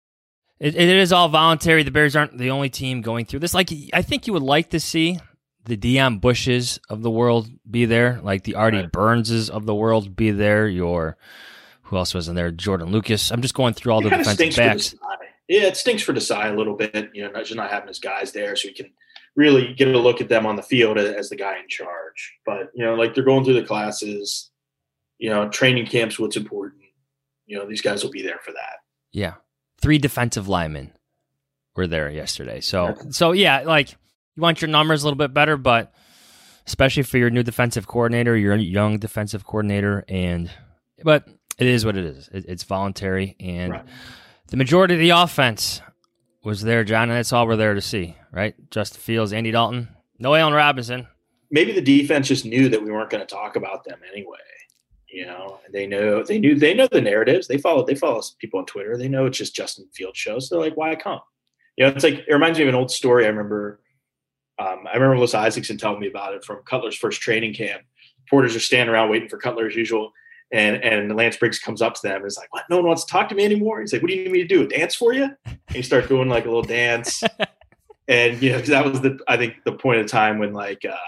Speaker 10: it, it is all voluntary. The Bears aren't the only team going through this. Like, I think you would like to see – the Deion Bushes of the world be there, like the Artie right. Burnses of the world be there. Your who else was in there? Jordan Lucas. I'm just going through all
Speaker 11: it
Speaker 10: the defensive backs.
Speaker 11: Yeah, it stinks for Desai a little bit, you know, just not having his guys there, so we can really get a look at them on the field as the guy in charge. But you know, like they're going through the classes, you know, training camps. What's important? You know, these guys will be there for that.
Speaker 10: Yeah, three defensive linemen were there yesterday. So, okay. so yeah, like. You want your numbers a little bit better, but especially for your new defensive coordinator, your young defensive coordinator, and but it is what it is. It, it's voluntary, and right. the majority of the offense was there, John, and that's all we're there to see, right? Justin Fields, Andy Dalton, no Allen Robinson.
Speaker 11: Maybe the defense just knew that we weren't going to talk about them anyway. You know, they know they knew they know the narratives. They follow they follow people on Twitter. They know it's just Justin Fields shows. So they're like, why come? You know, it's like it reminds me of an old story I remember. Um, I remember Melissa Isaacson telling me about it from Cutler's first training camp. Porters are standing around waiting for Cutler as usual. And and Lance Briggs comes up to them and is like, what? No one wants to talk to me anymore? He's like, what do you need me to do? Dance for you? And he starts doing like a little dance. And, you know, because that was the, I think the point of time when like, uh,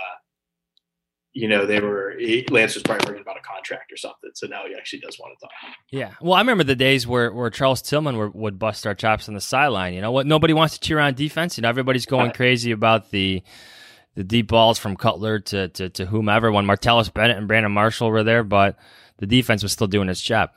Speaker 11: you know, they were, he, Lance was probably worried about a contract or something. So now he actually does want to talk.
Speaker 10: Yeah. Well, I remember the days where, where Charles Tillman were, would bust our chops on the sideline. You know what? Nobody wants to cheer on defense. You know, everybody's going right. crazy about the the deep balls from Cutler to, to, to whomever when Martellus Bennett and Brandon Marshall were there, but the defense was still doing its job.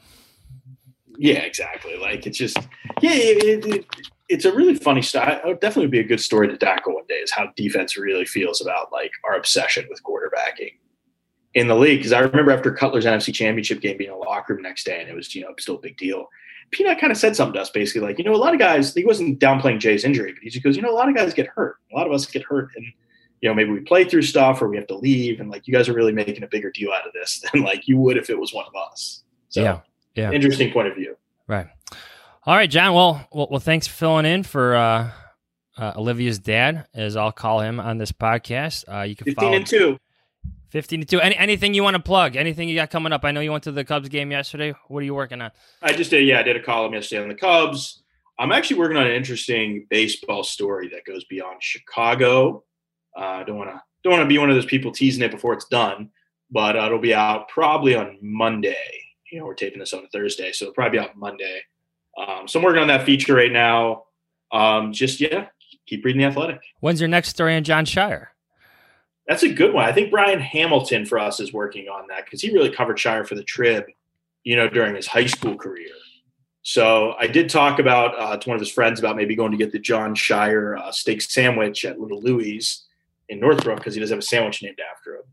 Speaker 11: Yeah, exactly. Like it's just, yeah, it, it, it's a really funny style. It would definitely be a good story to tackle one day is how defense really feels about like our obsession with quarterbacking in the league. Because I remember after Cutler's N F C Championship game being in a locker room next day, and it was, you know, still a big deal. Peanut kind of said something to us basically like, you know, a lot of guys, he wasn't downplaying Jay's injury, but he just goes, you know, a lot of guys get hurt. A lot of us get hurt. And, you know, maybe we play through stuff or we have to leave. And like, you guys are really making a bigger deal out of this than like you would if it was one of us. So
Speaker 10: yeah, yeah.
Speaker 11: Interesting point of view.
Speaker 10: Right. All right, John. Well, well, well thanks for filling in for uh, uh, Olivia's dad, as I'll call him on this podcast. Uh, you can
Speaker 11: fifteen
Speaker 10: follow
Speaker 11: and two.
Speaker 10: Fifteen to two. Any anything you want to plug? Anything you got coming up? I know you went to the Cubs game yesterday. What are you working on?
Speaker 11: I just did. Yeah, I did a column yesterday on the Cubs. I'm actually working on an interesting baseball story that goes beyond Chicago. Uh, I don't want to don't want to be one of those people teasing it before it's done, but uh, it'll be out probably on Monday. You know, we're taping this on a Thursday, so it'll probably be out Monday. Um, so I'm working on that feature right now. Um, just, yeah, keep reading The Athletic.
Speaker 10: When's your next story on John Shire?
Speaker 11: That's a good one. I think Brian Hamilton for us is working on that because he really covered Shire for the Trib, you know, during his high school career. So I did talk about uh, to one of his friends about maybe going to get the John Shire uh, steak sandwich at Little Louie's in Northbrook because he does have a sandwich named after him.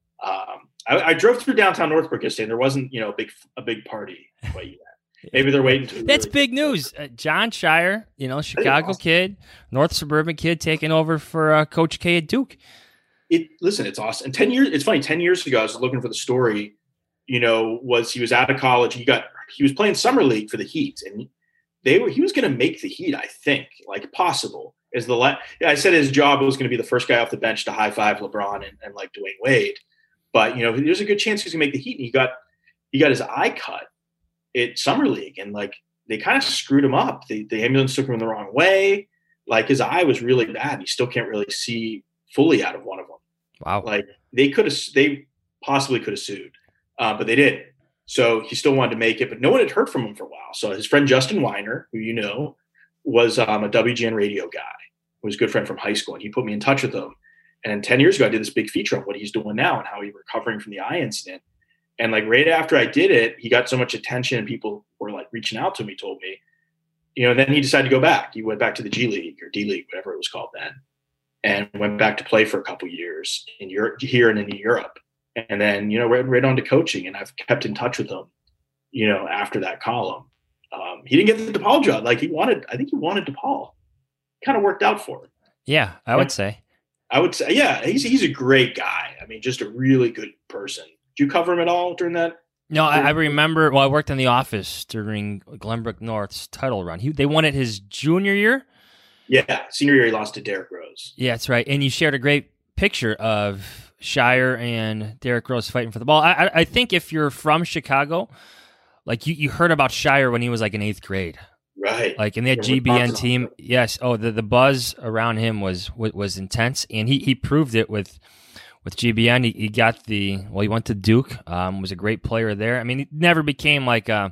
Speaker 11: Um, I, I drove through downtown Northbrook yesterday, and there wasn't, you know, a big a big party quite yet. Maybe they're waiting. To
Speaker 10: That's
Speaker 11: really
Speaker 10: big news. Uh, John Shire, you know, Chicago awesome. kid, North Suburban kid, taking over for uh, Coach K at Duke.
Speaker 11: It listen, it's awesome. And ten years, it's funny. Ten years ago, I was looking for the story. You know, was he was out of college? He got he was playing summer league for the Heat, and they were he was going to make the Heat. I think, like possible is the la- I said his job was going to be the first guy off the bench to high five LeBron and, and like Dwayne Wade. But you know, there's a good chance he's going to make the Heat. And he got he got his eye cut at summer league, and like they kind of screwed him up. The the ambulance took him the wrong way. Like his eye was really bad. He still can't really see fully out of one of them.
Speaker 10: Wow.
Speaker 11: Like they could have, they possibly could have sued, uh, but they didn't. So he still wanted to make it, but no one had heard from him for a while. So his friend Justin Weiner, who you know, was um, a W G N radio guy, who was a good friend from high school, and he put me in touch with him. And ten years ago, I did this big feature on what he's doing now and how he's recovering from the eye incident. And like right after I did it, he got so much attention, and people were like reaching out to him. He told me, you know, and then he decided to go back. He went back to the G League or D League, whatever it was called then, and went back to play for a couple years in Europe, here and in Europe. And then, you know, right, right on to coaching. And I've kept in touch with him, you know, after that column. Um, he didn't get the DePaul job. Like he wanted, I think he wanted DePaul. Kind of worked out for him.
Speaker 10: Yeah, I would say.
Speaker 11: I would say, yeah, he's he's a great guy. I mean, just a really good person. Did you cover him at all during that?
Speaker 10: No, I, I remember, well, I worked in the office during Glenbrook North's title run. He, they won it his junior year.
Speaker 11: Yeah, senior year he lost to Derrick Rose.
Speaker 10: Yeah, that's right. And you shared a great picture of Shire and Derrick Rose fighting for the ball. I, I, I think if you're from Chicago, like you, you heard about Shire when he was like in eighth grade.
Speaker 11: Right.
Speaker 10: Like in that G B N team. Yes. Oh, the, the buzz around him was was intense. And he, he proved it with with G B N. He, he got the, well, he went to Duke, um, was a great player there. I mean, he never became like a,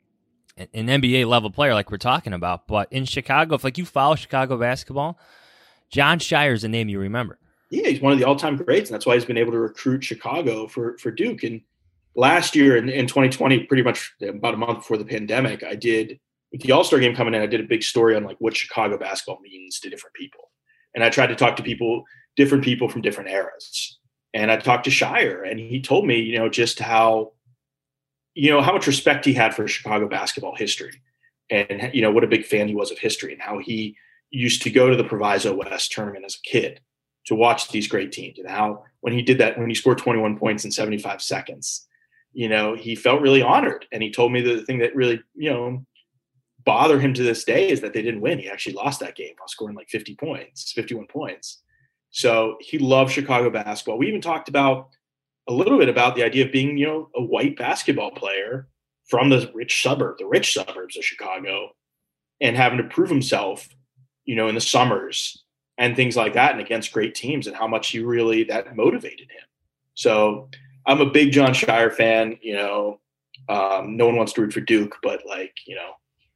Speaker 10: an N B A level player like we're talking about. But in Chicago, if like you follow Chicago basketball, John Shire's a name you remember.
Speaker 11: Yeah, he's one of the all-time greats, and that's why he's been able to recruit Chicago for, for Duke. And last year in, in twenty twenty, pretty much about a month before the pandemic, I did, with the All-Star game coming in, I did a big story on like what Chicago basketball means to different people. And I tried to talk to people, different people from different eras. And I talked to Shire, and he told me, you know, just how, you know, how much respect he had for Chicago basketball history, and, you know, what a big fan he was of history, and how he used to go to the Proviso West tournament as a kid to watch these great teams, and how when he did that, when he scored twenty-one points in seventy-five seconds, you know, he felt really honored. And he told me the thing that really, you know, bother him to this day is that they didn't win. He actually lost that game while scoring like fifty points, fifty-one points. So he loved Chicago basketball. We even talked about a little bit about the idea of being, you know, a white basketball player from the rich suburb, the rich suburbs of Chicago, and having to prove himself, you know, in the summers and things like that, and against great teams, and how much he really, that motivated him. So I'm a big John Shire fan. You know, um, no one wants to root for Duke, but like, you know,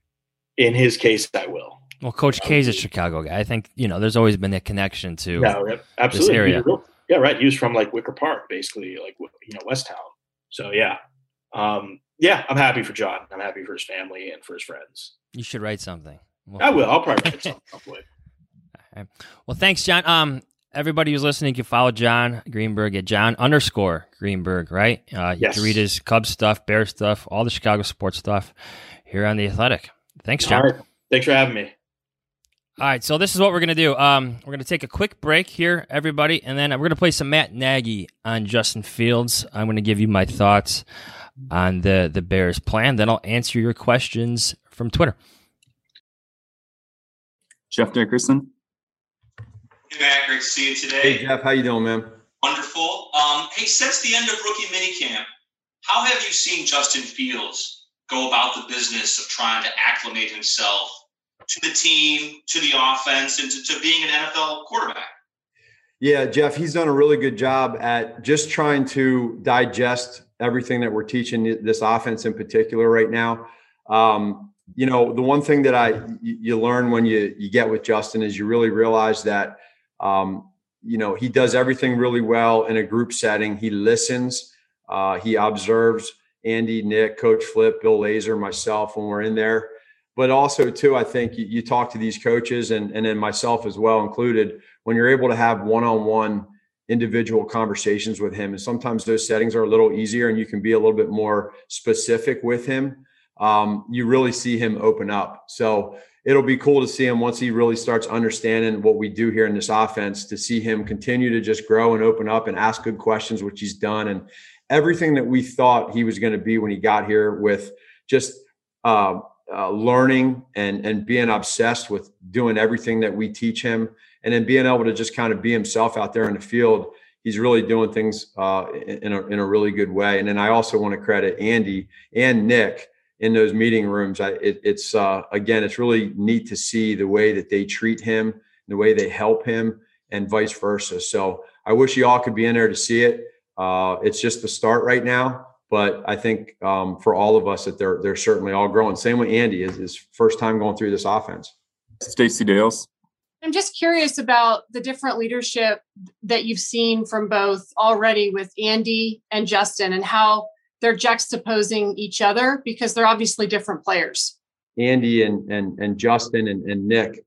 Speaker 11: in his case, I will.
Speaker 10: Well, Coach K is a Chicago guy. I think, you know, there's always been a connection to
Speaker 11: yeah, absolutely.
Speaker 10: this area.
Speaker 11: Real, yeah, right. He was from like Wicker Park, basically, like, you know, West Town. So, yeah. Um, yeah, I'm happy for John. I'm happy for his family and for his friends.
Speaker 10: You should write something. Well,
Speaker 11: I will. I'll probably write something. Hopefully.
Speaker 10: Right. Well, thanks, John. Um, everybody who's listening can follow John Greenberg at John underscore Greenberg, right? Uh, you
Speaker 11: yes.
Speaker 10: can read his Cubs stuff, Bears stuff, all the Chicago sports stuff here on The Athletic. Thanks, John.
Speaker 11: All right. Thanks for having me.
Speaker 10: All right, so this is what we're going to do. Um, we're going to take a quick break here, everybody, and then we're going to play some Matt Nagy on Justin Fields. I'm going to give you my thoughts on the, the Bears plan. Then I'll answer your questions from Twitter.
Speaker 4: Jeff Dickerson.
Speaker 5: Hey, Matt. Great to see you today.
Speaker 4: Hey, Jeff. How you doing, man?
Speaker 5: Wonderful. Um, hey, since the end of rookie minicamp, how have you seen Justin Fields go about the business of trying to acclimate himself to the team, to the offense, and to, to being an N F L quarterback?
Speaker 4: Yeah, Jeff, he's done a really good job at just trying to digest everything that we're teaching this offense in particular right now. Um, you know, the one thing that I you learn when you you get with Justin is you really realize that, um, you know, he does everything really well in a group setting. He listens, uh, he observes, Andy, Nick, Coach Flip, Bill Lazor, myself when we're in there. But also, too, I think you, you talk to these coaches and, and then myself as well included, when you're able to have one-on-one individual conversations with him. And sometimes those settings are a little easier and you can be a little bit more specific with him. Um, you really see him open up. So it'll be cool to see him once he really starts understanding what we do here in this offense, to see him continue to just grow and open up and ask good questions, which he's done. And everything that we thought he was going to be when he got here, with just uh, uh, learning and, and being obsessed with doing everything that we teach him, and then being able to just kind of be himself out there in the field. He's really doing things uh, in, a, in a really good way. And then I also want to credit Andy and Nick in those meeting rooms. I, it, it's, uh, again, it's really neat to see the way that they treat him, the way they help him, and vice versa. So I wish you all could be in there to see it. Uh, it's just the start right now, but I think um, for all of us that they're, they're certainly all growing. Same with Andy, is his first time going through this offense.
Speaker 9: Stacey Dales.
Speaker 12: I'm just curious about the different leadership that you've seen from both already with Andy and Justin, and how they're juxtaposing each other, because they're obviously different players.
Speaker 4: Andy and and and Justin and, and Nick.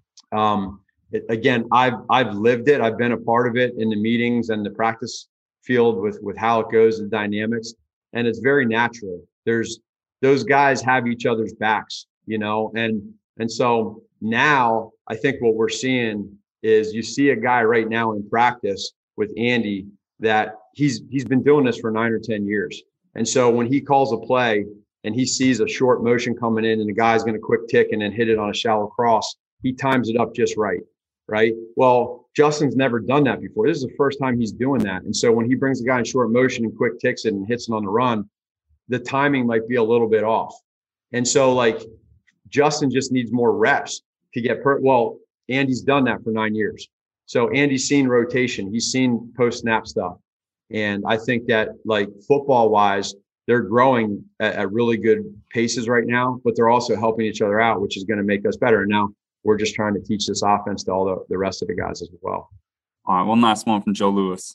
Speaker 4: Um, it, again, I've I've lived it. I've been a part of it in the meetings and the practice field with with how it goes, the dynamics, and it's very natural. There's those guys have each other's backs, you know, and and so now I think what we're seeing is you see a guy right now in practice with Andy that he's he's been doing this for nine or ten years. And so when he calls a play and he sees a short motion coming in and the guy's going to quick tick and then hit it on a shallow cross, he times it up just right, right? Well, Justin's never done that before. This is the first time he's doing that. And so when he brings the guy in short motion and quick ticks it and hits it on the run, the timing might be a little bit off. And so like Justin just needs more reps to get per well, Andy's done that for nine years. So Andy's seen rotation. He's seen post-snap stuff. And I think that, like, football-wise, they're growing at, at really good paces right now, but they're also helping each other out, which is going to make us better. And now we're just trying to teach this offense to all the, the rest of the guys as well.
Speaker 9: All right, one last one from Joe Lewis.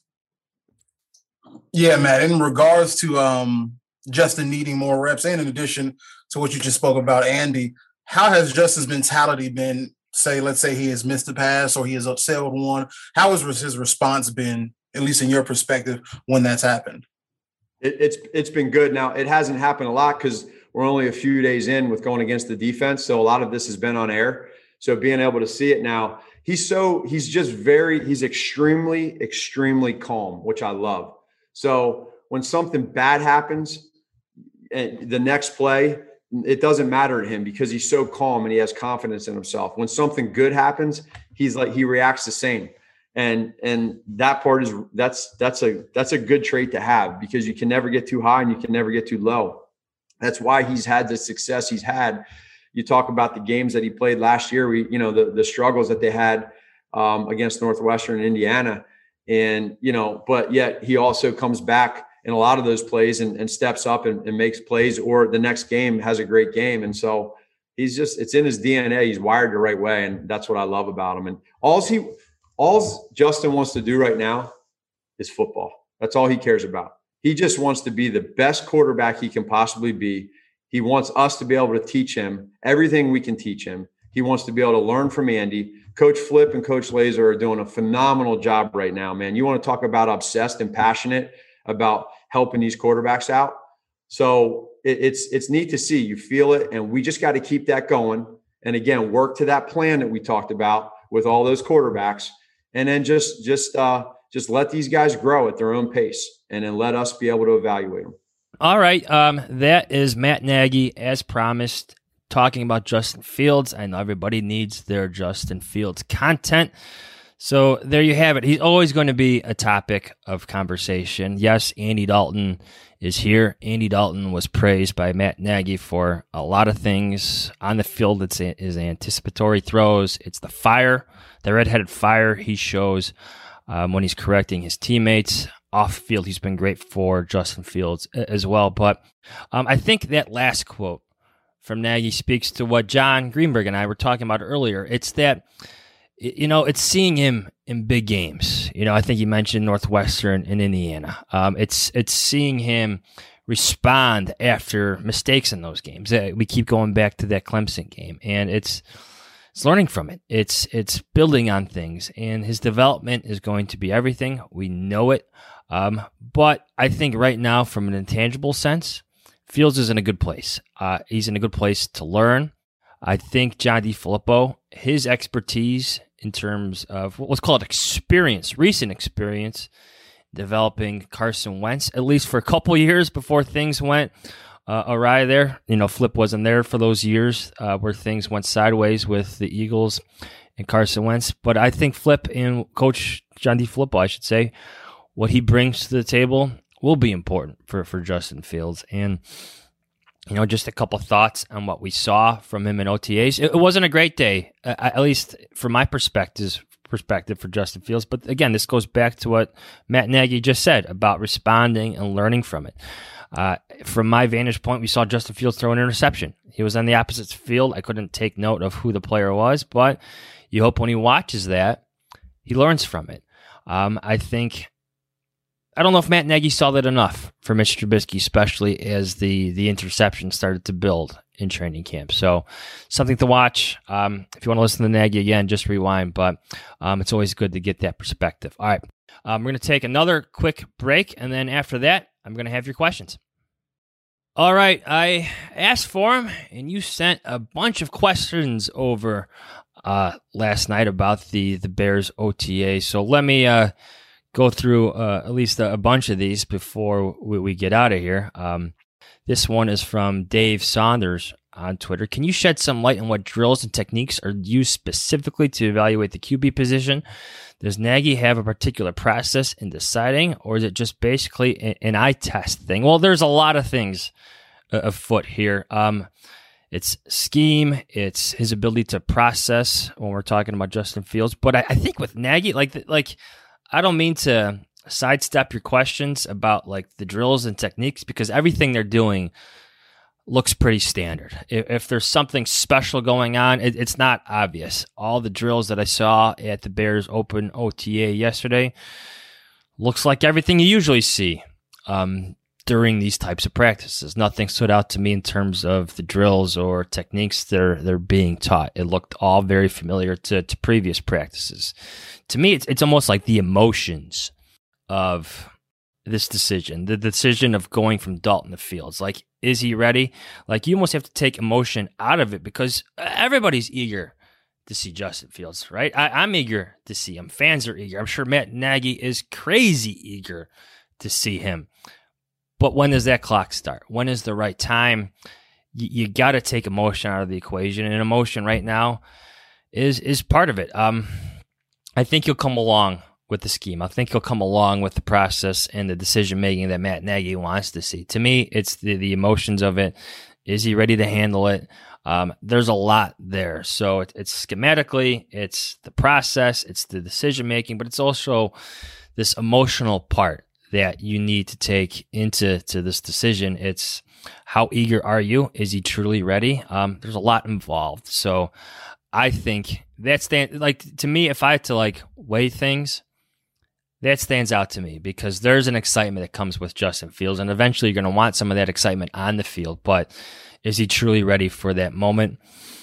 Speaker 2: Yeah, Matt, in regards to um, Justin needing more reps, and in addition to what you just spoke about, Andy, how has Justin's mentality been? Say, let's say he has missed a pass or he has upsailed one. How has his response been, at least in your perspective, when that's happened?
Speaker 4: It, it's it's been good. Now, it hasn't happened a lot because we're only a few days in with going against the defense. So a lot of this has been on air. So being able to see it now, he's so he's just very he's extremely, extremely calm, which I love. So when something bad happens, and the next play, it doesn't matter to him because he's so calm and he has confidence in himself. When something good happens, he's like, he reacts the same. And, and that part is, that's, that's a, that's a good trait to have, because you can never get too high and you can never get too low. That's why he's had the success he's had. You talk about the games that he played last year, we, you know, the, the struggles that they had um, against Northwestern and Indiana. And, you know, but yet he also comes back in a lot of those plays and, and steps up and, and makes plays, or the next game has a great game. And so he's just, it's in his D N A. He's wired the right way. And that's what I love about him. And all he, all Justin wants to do right now is football. That's all he cares about. He just wants to be the best quarterback he can possibly be. He wants us to be able to teach him everything we can teach him. He wants to be able to learn from Andy. Coach Flip and Coach Lazor are doing a phenomenal job right now, man. You want to talk about obsessed and passionate about helping these quarterbacks out. So it, it's it's neat to see. You feel it, and we just got to keep that going. And again, work to that plan that we talked about with all those quarterbacks, and then just just uh, just let these guys grow at their own pace, and then let us be able to evaluate them.
Speaker 10: All right, um, that is Matt Nagy, as promised, talking about Justin Fields. I know everybody needs their Justin Fields content. So there you have it. He's always going to be a topic of conversation. Yes, Andy Dalton is here. Andy Dalton was praised by Matt Nagy for a lot of things on the field. It's his anticipatory throws. It's the fire, the redheaded fire he shows um, when he's correcting his teammates. Off field, he's been great for Justin Fields as well. But um, I think that last quote from Nagy speaks to what John Greenberg and I were talking about earlier. It's that, you know, it's seeing him in big games. You know, I think you mentioned Northwestern and Indiana. Um, it's it's seeing him respond after mistakes in those games. We keep going back to that Clemson game, and it's it's learning from it. It's it's building on things, and his development is going to be everything. We know it, um, but I think right now, from an intangible sense, Fields is in a good place. Uh, he's in a good place to learn. I think John DeFilippo, his expertise in terms of what's called experience, recent experience, developing Carson Wentz, at least for a couple years before things went uh, awry there. You know, Flip wasn't there for those years uh, where things went sideways with the Eagles and Carson Wentz. But I think Flip and Coach John DeFilippo, I should say, what he brings to the table will be important for, for Justin Fields. And, you know, just a couple thoughts on what we saw from him in O T As. It, it wasn't a great day, uh, at least from my perspective, perspective for Justin Fields. But again, this goes back to what Matt Nagy just said about responding and learning from it. Uh, from my vantage point, we saw Justin Fields throw an interception. He was on the opposite field. I couldn't take note of who the player was, but you hope when he watches that, he learns from it. Um, I think, I don't know if Matt Nagy saw that enough for Mitch Trubisky, especially as the, the interception started to build in training camp. So something to watch. Um, if you want to listen to Nagy again, just rewind, but um, it's always good to get that perspective. All right, um, we're going to take another quick break, and then after that, I'm going to have your questions. All right, I asked for them, and you sent a bunch of questions over uh, last night about the, the Bears O T A. So let me uh, go through uh, at least a, a bunch of these before we, we get out of here. Um, this one is from Dave Saunders on Twitter. Can you shed some light on what drills and techniques are used specifically to evaluate the Q B position? Does Nagy have a particular process in deciding, or is it just basically an, an eye test thing? Well, there's a lot of things uh, afoot here. Um, it's scheme, it's his ability to process when we're talking about Justin Fields. But I, I think with Nagy, like like I don't mean to sidestep your questions about like the drills and techniques, because everything they're doing looks pretty standard. If, if there's something special going on, it, it's not obvious. All the drills that I saw at the Bears Open O T A yesterday looks like everything you usually see um, during these types of practices. Nothing stood out to me in terms of the drills or techniques they're they're being taught. It looked all very familiar to, to previous practices. To me, it's it's almost like the emotions of this decision, the decision of going from Dalton to Fields. Like, is he ready? Like, you almost have to take emotion out of it, because everybody's eager to see Justin Fields, right? I, I'm eager to see him. Fans are eager. I'm sure Matt Nagy is crazy eager to see him. But when does that clock start? When is the right time? You, you got to take emotion out of the equation, and emotion right now is is part of it. Um, I think you'll come along with the scheme. I think he'll come along with the process and the decision-making that Matt Nagy wants to see. To me, it's the, the emotions of it. Is he ready to handle it? Um, there's a lot there. So it, it's schematically, it's the process, it's the decision-making, but it's also this emotional part that you need to take into to this decision. It's how eager are you? Is he truly ready? Um, there's a lot involved. So I think that's, like, to me, if I had to, like, weigh things, that stands out to me, because there's an excitement that comes with Justin Fields, and eventually you're going to want some of that excitement on the field. But is he truly ready for that moment?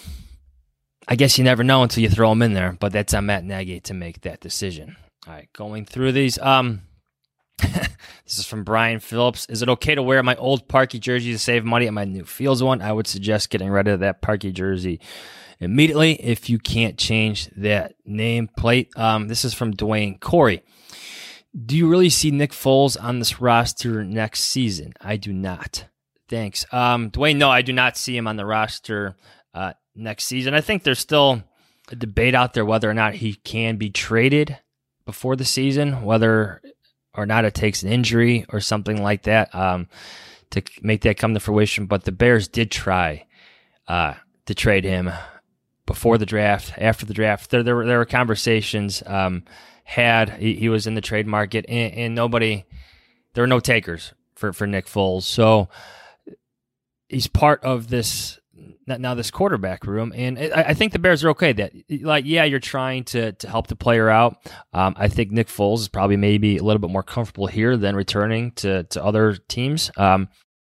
Speaker 10: I guess you never know until you throw him in there, but that's on Matt Nagy to make that decision. All right, going through these. Um, this is from Brian Phillips. Is it okay to wear my old Parkey jersey to save money at my new Fields one? I would suggest getting rid of that Parkey jersey immediately if you can't change that nameplate. Um, this is from Dwayne Corey. Do you really see Nick Foles on this roster next season? I do not. Thanks. Um, Dwayne, no, I do not see him on the roster uh, next season. I think there's still a debate out there whether or not he can be traded before the season, whether or not it takes an injury or something like that um, to make that come to fruition. But the Bears did try uh, to trade him before the draft, after the draft. There, there, were, there were conversations um, had. He, he was in the trade market, and, and nobody, there were no takers for, for Nick Foles. So he's part of this, now this quarterback room, and I, I think the Bears are okay that, like, yeah, you're trying to to help the player out. Um, I think Nick Foles is probably maybe a little bit more comfortable here than returning to, to other teams. Um,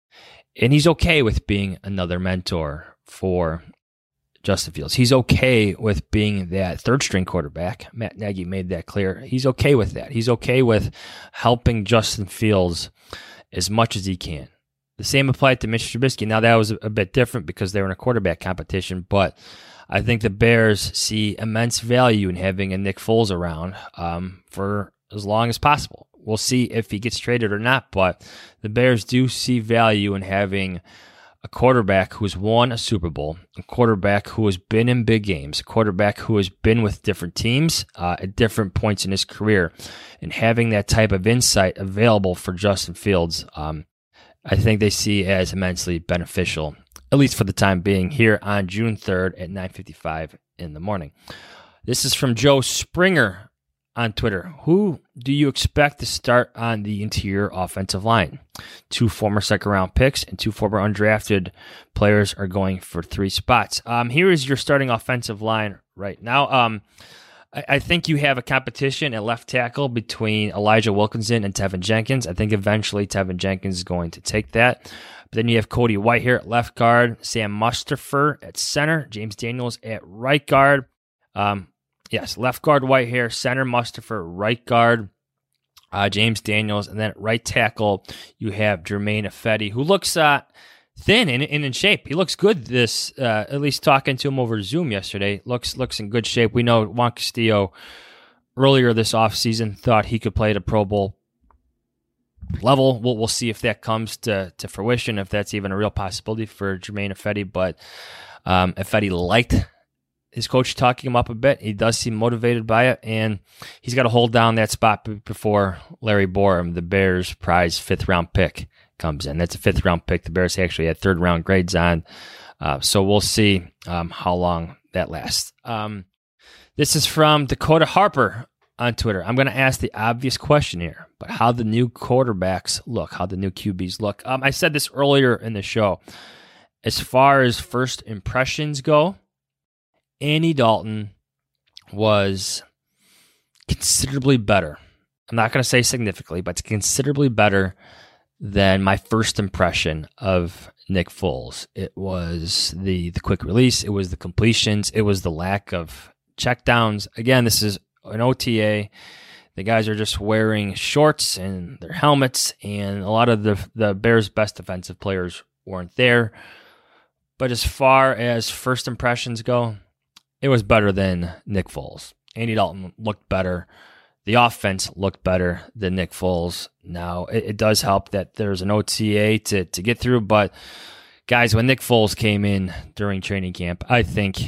Speaker 10: And he's okay with being another mentor for Justin Fields. He's okay with being that third-string quarterback. Matt Nagy made that clear. He's okay with that. He's okay with helping Justin Fields as much as he can. The same applied to Mitch Trubisky. Now, that was a bit different because they were in a quarterback competition, but I think the Bears see immense value in having a Nick Foles around um, for as long as possible. We'll see if he gets traded or not, but the Bears do see value in having a quarterback who's won a Super Bowl, a quarterback who has been in big games, a quarterback who has been with different teams uh, at different points in his career, and having that type of insight available for Justin Fields, um, I think they see as immensely beneficial, at least for the time being, here on June third at nine fifty-five in the morning. This is from Joe Springer on Twitter. Who do you expect to start on the interior offensive line? Two former second-round picks and two former undrafted players are going for three spots. Um, here is your starting offensive line right now. Um, I, I think you have a competition at left tackle between Elijah Wilkinson and Tevin Jenkins. I think eventually Tevin Jenkins is going to take that. But then you have Cody Whitehair at left guard, Sam Mustipher at center, James Daniels at right guard. Um, Yes, left guard Whitehair, center Mustipher, right guard uh, James Daniels, and then at right tackle you have Germain Ifedi, who looks uh, thin and, and in shape. He looks good. This, uh, at least talking to him over Zoom yesterday, looks looks in good shape. We know Juan Castillo earlier this offseason thought he could play at a Pro Bowl level. We'll we'll see if that comes to to fruition, if that's even a real possibility for Germain Ifedi. But um, Ifedi liked his coach talking him up a bit. He does seem motivated by it, and he's got to hold down that spot before Larry Borum, the Bears' prize fifth-round pick, comes in. That's a fifth-round pick. The Bears actually had third-round grades on, uh, so we'll see um, how long that lasts. Um, this is from Dakota Harper on Twitter. I'm going to ask the obvious question here, but how the new quarterbacks look, how the new Q Bs look. Um, I said this earlier in the show. As far as first impressions go, Andy Dalton was considerably better. I'm not going to say significantly, but considerably better than my first impression of Nick Foles. It was the the quick release. It was the completions. It was the lack of checkdowns. Again, this is an O T A. The guys are just wearing shorts and their helmets, and a lot of the the Bears' best defensive players weren't there. But as far as first impressions go, it was better than Nick Foles. Andy Dalton looked better. The offense looked better than Nick Foles. Now, it, it does help that there's an O T A to, to get through, but guys, when Nick Foles came in during training camp, I think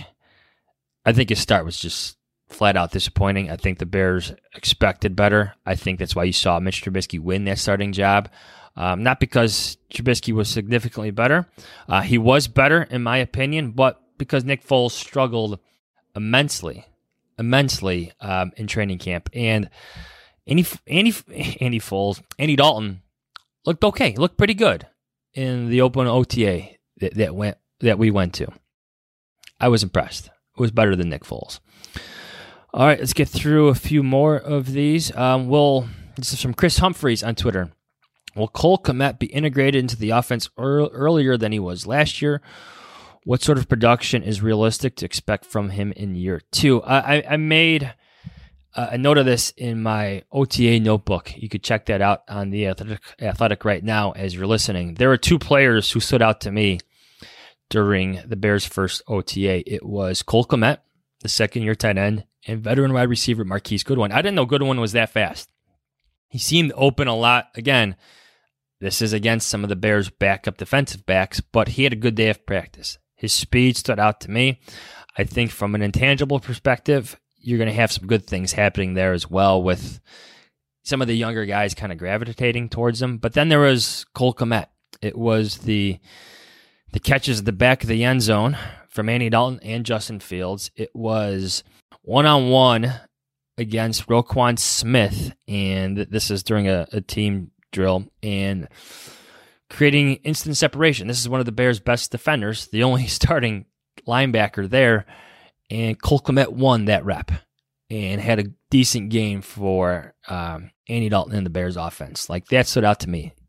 Speaker 10: I think his start was just flat out disappointing. I think the Bears expected better. I think that's why you saw Mitch Trubisky win that starting job. Um, not because Trubisky was significantly better. Uh, he was better, in my opinion, but because Nick Foles struggled immensely, immensely um, in training camp. And Andy, Andy, Andy Foles, Andy Dalton looked okay. He looked pretty good in the open O T A that, that went that we went to. I was impressed. It was better than Nick Foles. All right, let's get through a few more of these. Um, we'll, this is from Chris Humphreys on Twitter. Will Cole Kmet be integrated into the offense er- earlier than he was last year? What sort of production is realistic to expect from him in year two? I, I made a note of this in my O T A notebook. You could check that out on the Athletic, Athletic right now as you're listening. There were two players who stood out to me during the Bears' first O T A. It was Cole Kmet, the second-year tight end, and veteran wide receiver Marquise Goodwin. I didn't know Goodwin was that fast. He seemed open a lot. Again, this is against some of the Bears' backup defensive backs, but he had a good day of practice. His speed stood out to me. I think from an intangible perspective, you're going to have some good things happening there as well with some of the younger guys kind of gravitating towards him. But then there was Cole Kmet. It was the the catches at the back of the end zone from Andy Dalton and Justin Fields. It was one-on-one against Roquan Smith, and this is during a, a team drill, and creating instant separation. This is one of the Bears' best defenders, the only starting linebacker there, and Cole Kmet won that rep and had a decent game for um, Andy Dalton and the Bears' offense. Like, that stood out to me.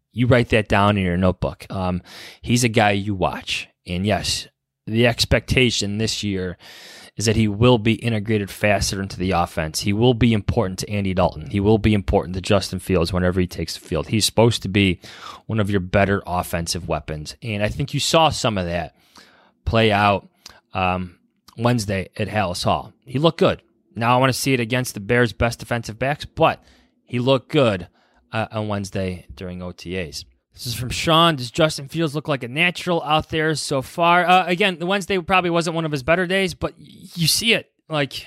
Speaker 10: you write that down in your notebook. Um, he's a guy you watch. And yes, the expectation this year is that he will be integrated faster into the offense. He will be important to Andy Dalton. He will be important to Justin Fields whenever he takes the field. He's supposed to be one of your better offensive weapons. And I think you saw some of that play out um, Wednesday at Halas Hall. He looked good. Now I want to see it against the Bears' best defensive backs, but he looked good uh, on Wednesday during O T As. This is from Sean. Does Justin Fields look like a natural out there so far? Uh, again, the Wednesday probably wasn't one of his better days, but you see it. Like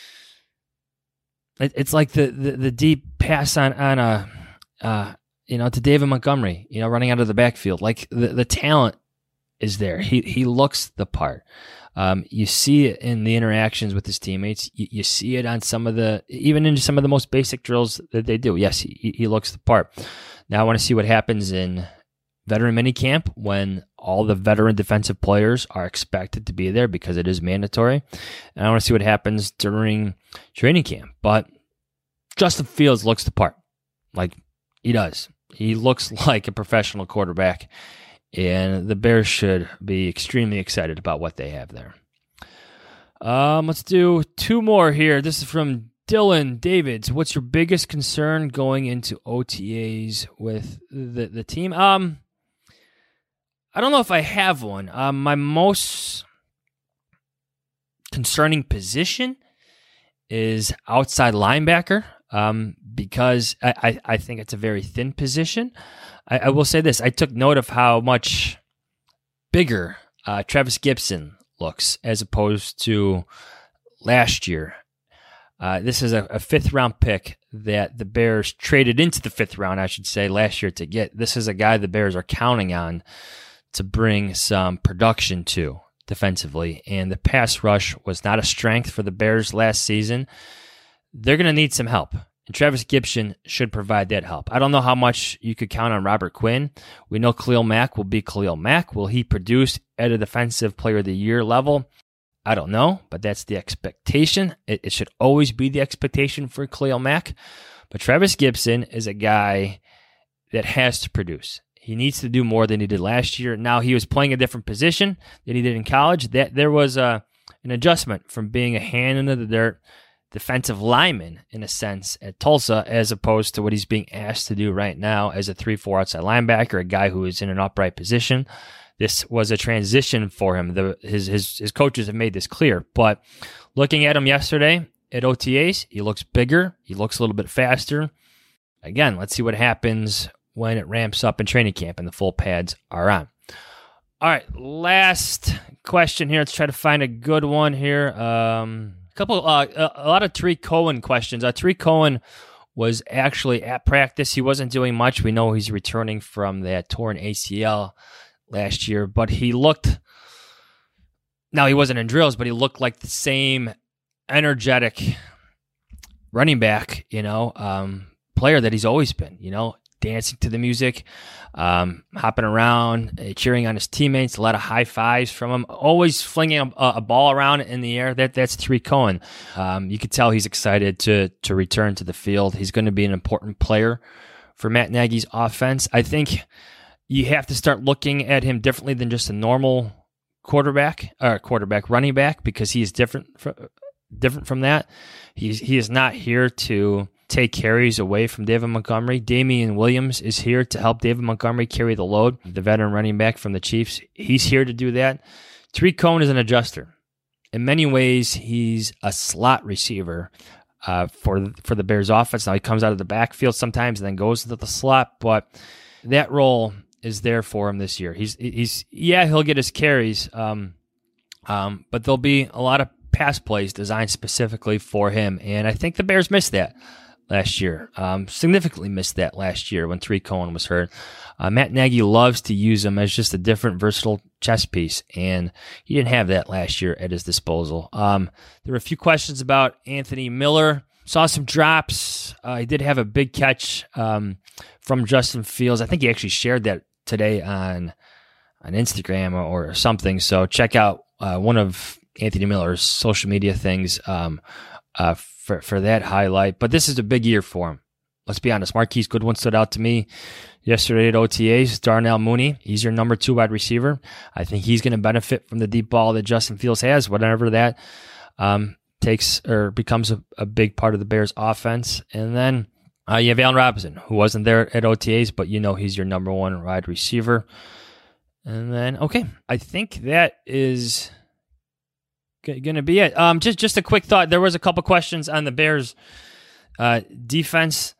Speaker 10: it, it's like the, the, the deep pass on on a uh, you know to David Montgomery, you know, running out of the backfield. Like the, the talent is there. He he looks the part. Um, you see it in the interactions with his teammates. You, you see it on some of the, even in some of the most basic drills that they do. Yes, he, he looks the part. Now I want to see what happens in veteran minicamp when all the veteran defensive players are expected to be there because it is mandatory. And I want to see what happens during training camp. But Justin Fields looks the part. Like, he does. He looks like a professional quarterback. And the Bears should be extremely excited about what they have there. Um, let's do two more here. This is from Dylan Davids. What's your biggest concern going into O T As with the, the team? Um, I don't know if I have one. Um, my most concerning position is outside linebacker um, because I, I, I think it's a very thin position. I, I will say this. I took note of how much bigger uh, Travis Gibson looks as opposed to last year. Uh, this is a, a fifth-round pick that the Bears traded into the fifth round, I should say, last year to get. This is a guy the Bears are counting on to bring some production to defensively. And the pass rush was not a strength for the Bears last season. They're going to need some help. And Travis Gibson should provide that help. I don't know how much you could count on Robert Quinn. We know Khalil Mack will be Khalil Mack. Will he produce at a Defensive Player of the Year level? I don't know, but that's the expectation. It, it should always be the expectation for Khalil Mack. But Travis Gibson is a guy that has to produce. He needs to do more than he did last year. Now, he was playing a different position than he did in college. That there was a, an adjustment from being a hand into the dirt defensive lineman, in a sense, at Tulsa, as opposed to what he's being asked to do right now as a three four outside linebacker, a guy who is in an upright position. This was a transition for him. The, his, his, his coaches have made this clear. But looking at him yesterday at O T As, he looks bigger. He looks a little bit faster. Again, let's see what happens when it ramps up in training camp and the full pads are on. All right, last question here. Let's try to find a good one here. Um... Couple, uh, a lot of Tariq Cohen questions. Uh, Tariq Cohen was actually at practice. He wasn't doing much. We know he's returning from that torn A C L last year, but he looked, now he wasn't in drills, but he looked like the same energetic running back, you know, um, player that he's always been, you know, dancing to the music, um, hopping around, uh, cheering on his teammates, a lot of high fives from him, always flinging a, a ball around in the air. That That's Tariq Cohen. Um, you could tell he's excited to to return to the field. He's going to be an important player for Matt Nagy's offense. I think you have to start looking at him differently than just a normal quarterback or quarterback running back, because he is different from, different from that. He's he is not here to take carries away from David Montgomery. Damian Williams is here to help David Montgomery carry the load, the veteran running back from the Chiefs. He's here to do that. Tariq Cohen is an adjuster. In many ways, he's a slot receiver uh, for, for the Bears offense. Now, he comes out of the backfield sometimes and then goes into the slot, but that role is there for him this year. He's, he's yeah, he'll get his carries, um, um, but there'll be a lot of pass plays designed specifically for him, and I think the Bears missed that last year. Um, significantly missed that last year when Tariq Cohen was hurt. Uh, Matt Nagy loves to use him as just a different, versatile chess piece, and he didn't have that last year at his disposal. Um, there were a few questions about Anthony Miller. Saw some drops. Uh, he did have a big catch um, from Justin Fields. I think he actually shared that today on on Instagram or, or something. So check out uh, one of Anthony Miller's social media things um, uh, for, for that highlight. But this is a big year for him. let's be honest, Marquise Goodwin stood out to me yesterday at O T As. Darnell Mooney, he's your number two wide receiver. I think he's going to benefit from the deep ball that Justin Fields has, whatever that um, takes or becomes a, a big part of the Bears offense. And then uh, you have Allen Robinson, who wasn't there at O T As, but you know he's your number one wide receiver. And then, okay, I think that is going to be it. Um, just just a quick thought. There was a couple questions on the Bears uh, defense.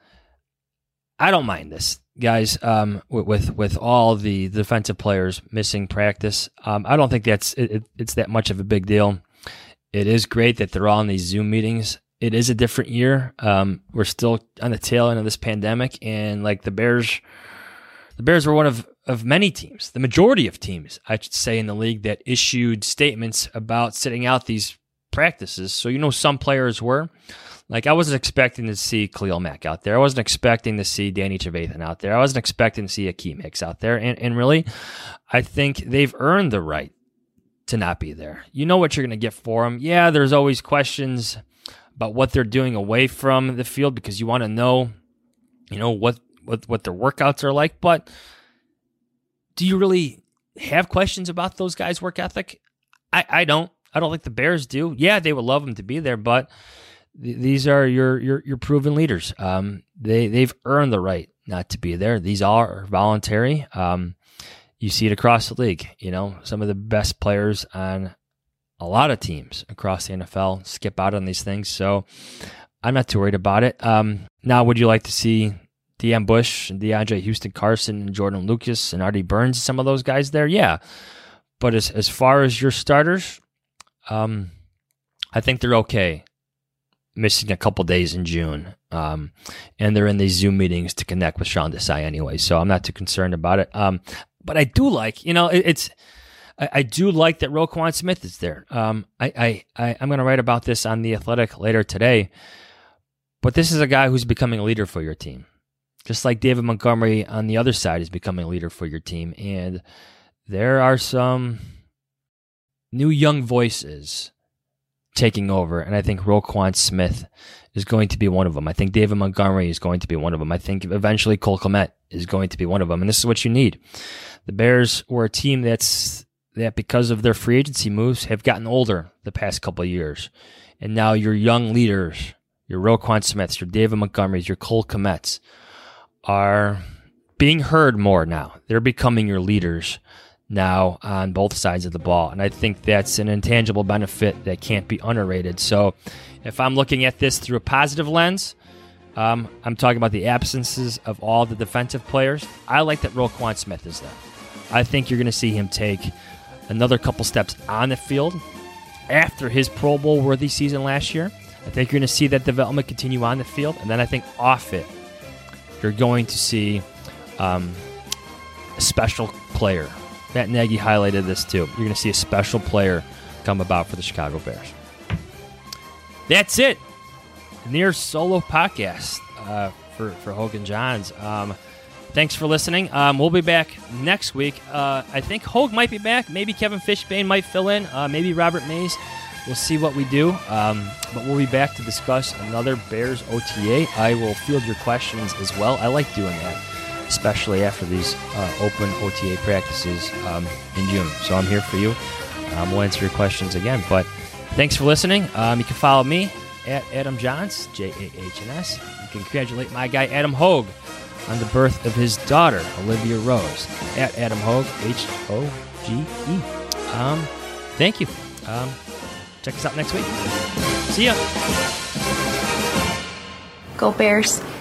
Speaker 10: I don't mind this, guys. Um, with, with with all the defensive players missing practice, um, I don't think that's it, it, it's that much of a big deal. It is great that they're all in these Zoom meetings. It is a different year. Um, we're still on the tail end of this pandemic, and like the Bears, the Bears were one of of many teams, the majority of teams, I should say, in the league that issued statements about sitting out these practices. So, you know, some players were. Like, I wasn't expecting to see Khalil Mack out there. I wasn't expecting to see Danny Trevathan out there. I wasn't expecting to see Akeem Hicks out there. And, and really, I think they've earned the right to not be there. You know what you're going to get for them. Yeah, there's always questions about what they're doing away from the field because you want to know, you know, what, what, what their workouts are like. But do you really have questions about those guys' work ethic? I, I don't. I don't think the Bears do. Yeah, they would love them to be there, but th- these are your your your proven leaders. Um, they they've earned the right not to be there. These are voluntary. Um, you see it across the league. You know, some of the best players on a lot of teams across the N F L skip out on these things. So I'm not too worried about it. Um, now, would you like to see Deon Bush and DeAndre Houston Carson and Jordan Lucas and Artie Burns, some of those guys there? Yeah. But as as far as your starters, um, I think they're okay missing a couple days in June. Um, and they're in these Zoom meetings to connect with Sean Desai anyway, so I'm not too concerned about it. Um, but I do like, you know, it, it's, I, I do like that Roquan Smith is there. Um, I, I, I, I'm going to write about this on The Athletic later today, but this is a guy who's becoming a leader for your team. Just like David Montgomery on the other side is becoming a leader for your team. And there are some new young voices taking over. And I think Roquan Smith is going to be one of them. I think David Montgomery is going to be one of them. I think eventually Cole Kmet is going to be one of them. And this is what you need. The Bears were a team that's that because of their free agency moves have gotten older the past couple of years. And now your young leaders, your Roquan Smiths, your David Montgomerys, your Cole Kmets, are being heard more now. They're becoming your leaders now on both sides of the ball. And I think that's an intangible benefit that can't be underrated. So if I'm looking at this through a positive lens, um, I'm talking about the absences of all the defensive players. I like that Roquan Smith is there. I think you're going to see him take another couple steps on the field after his Pro Bowl worthy season last year. I think you're going to see that development continue on the field. And then I think off it, you're going to see um, a special player. Matt Nagy highlighted this too. You're going to see a special player come about for the Chicago Bears. That's it. Near solo podcast uh, for, for Hogan Johns. Um, thanks for listening. Um, we'll be back next week. Uh, I think Hogue might be back. Maybe Kevin Fishbane might fill in. Uh, maybe Robert Mays. We'll see what we do, um, but we'll be back to discuss another Bears O T A. I will field your questions as well. I like doing that, especially after these uh, open O T A practices um, in June. So I'm here for you. Um, we'll answer your questions again. But thanks for listening. Um, you can follow me at Adam Johns, J A H N S. You can congratulate my guy Adam Hogue on the birth of his daughter, Olivia Rose, at Adam Hogue, H O G E. Um, thank you. Um, Check us out next week. See ya.
Speaker 13: Go Bears.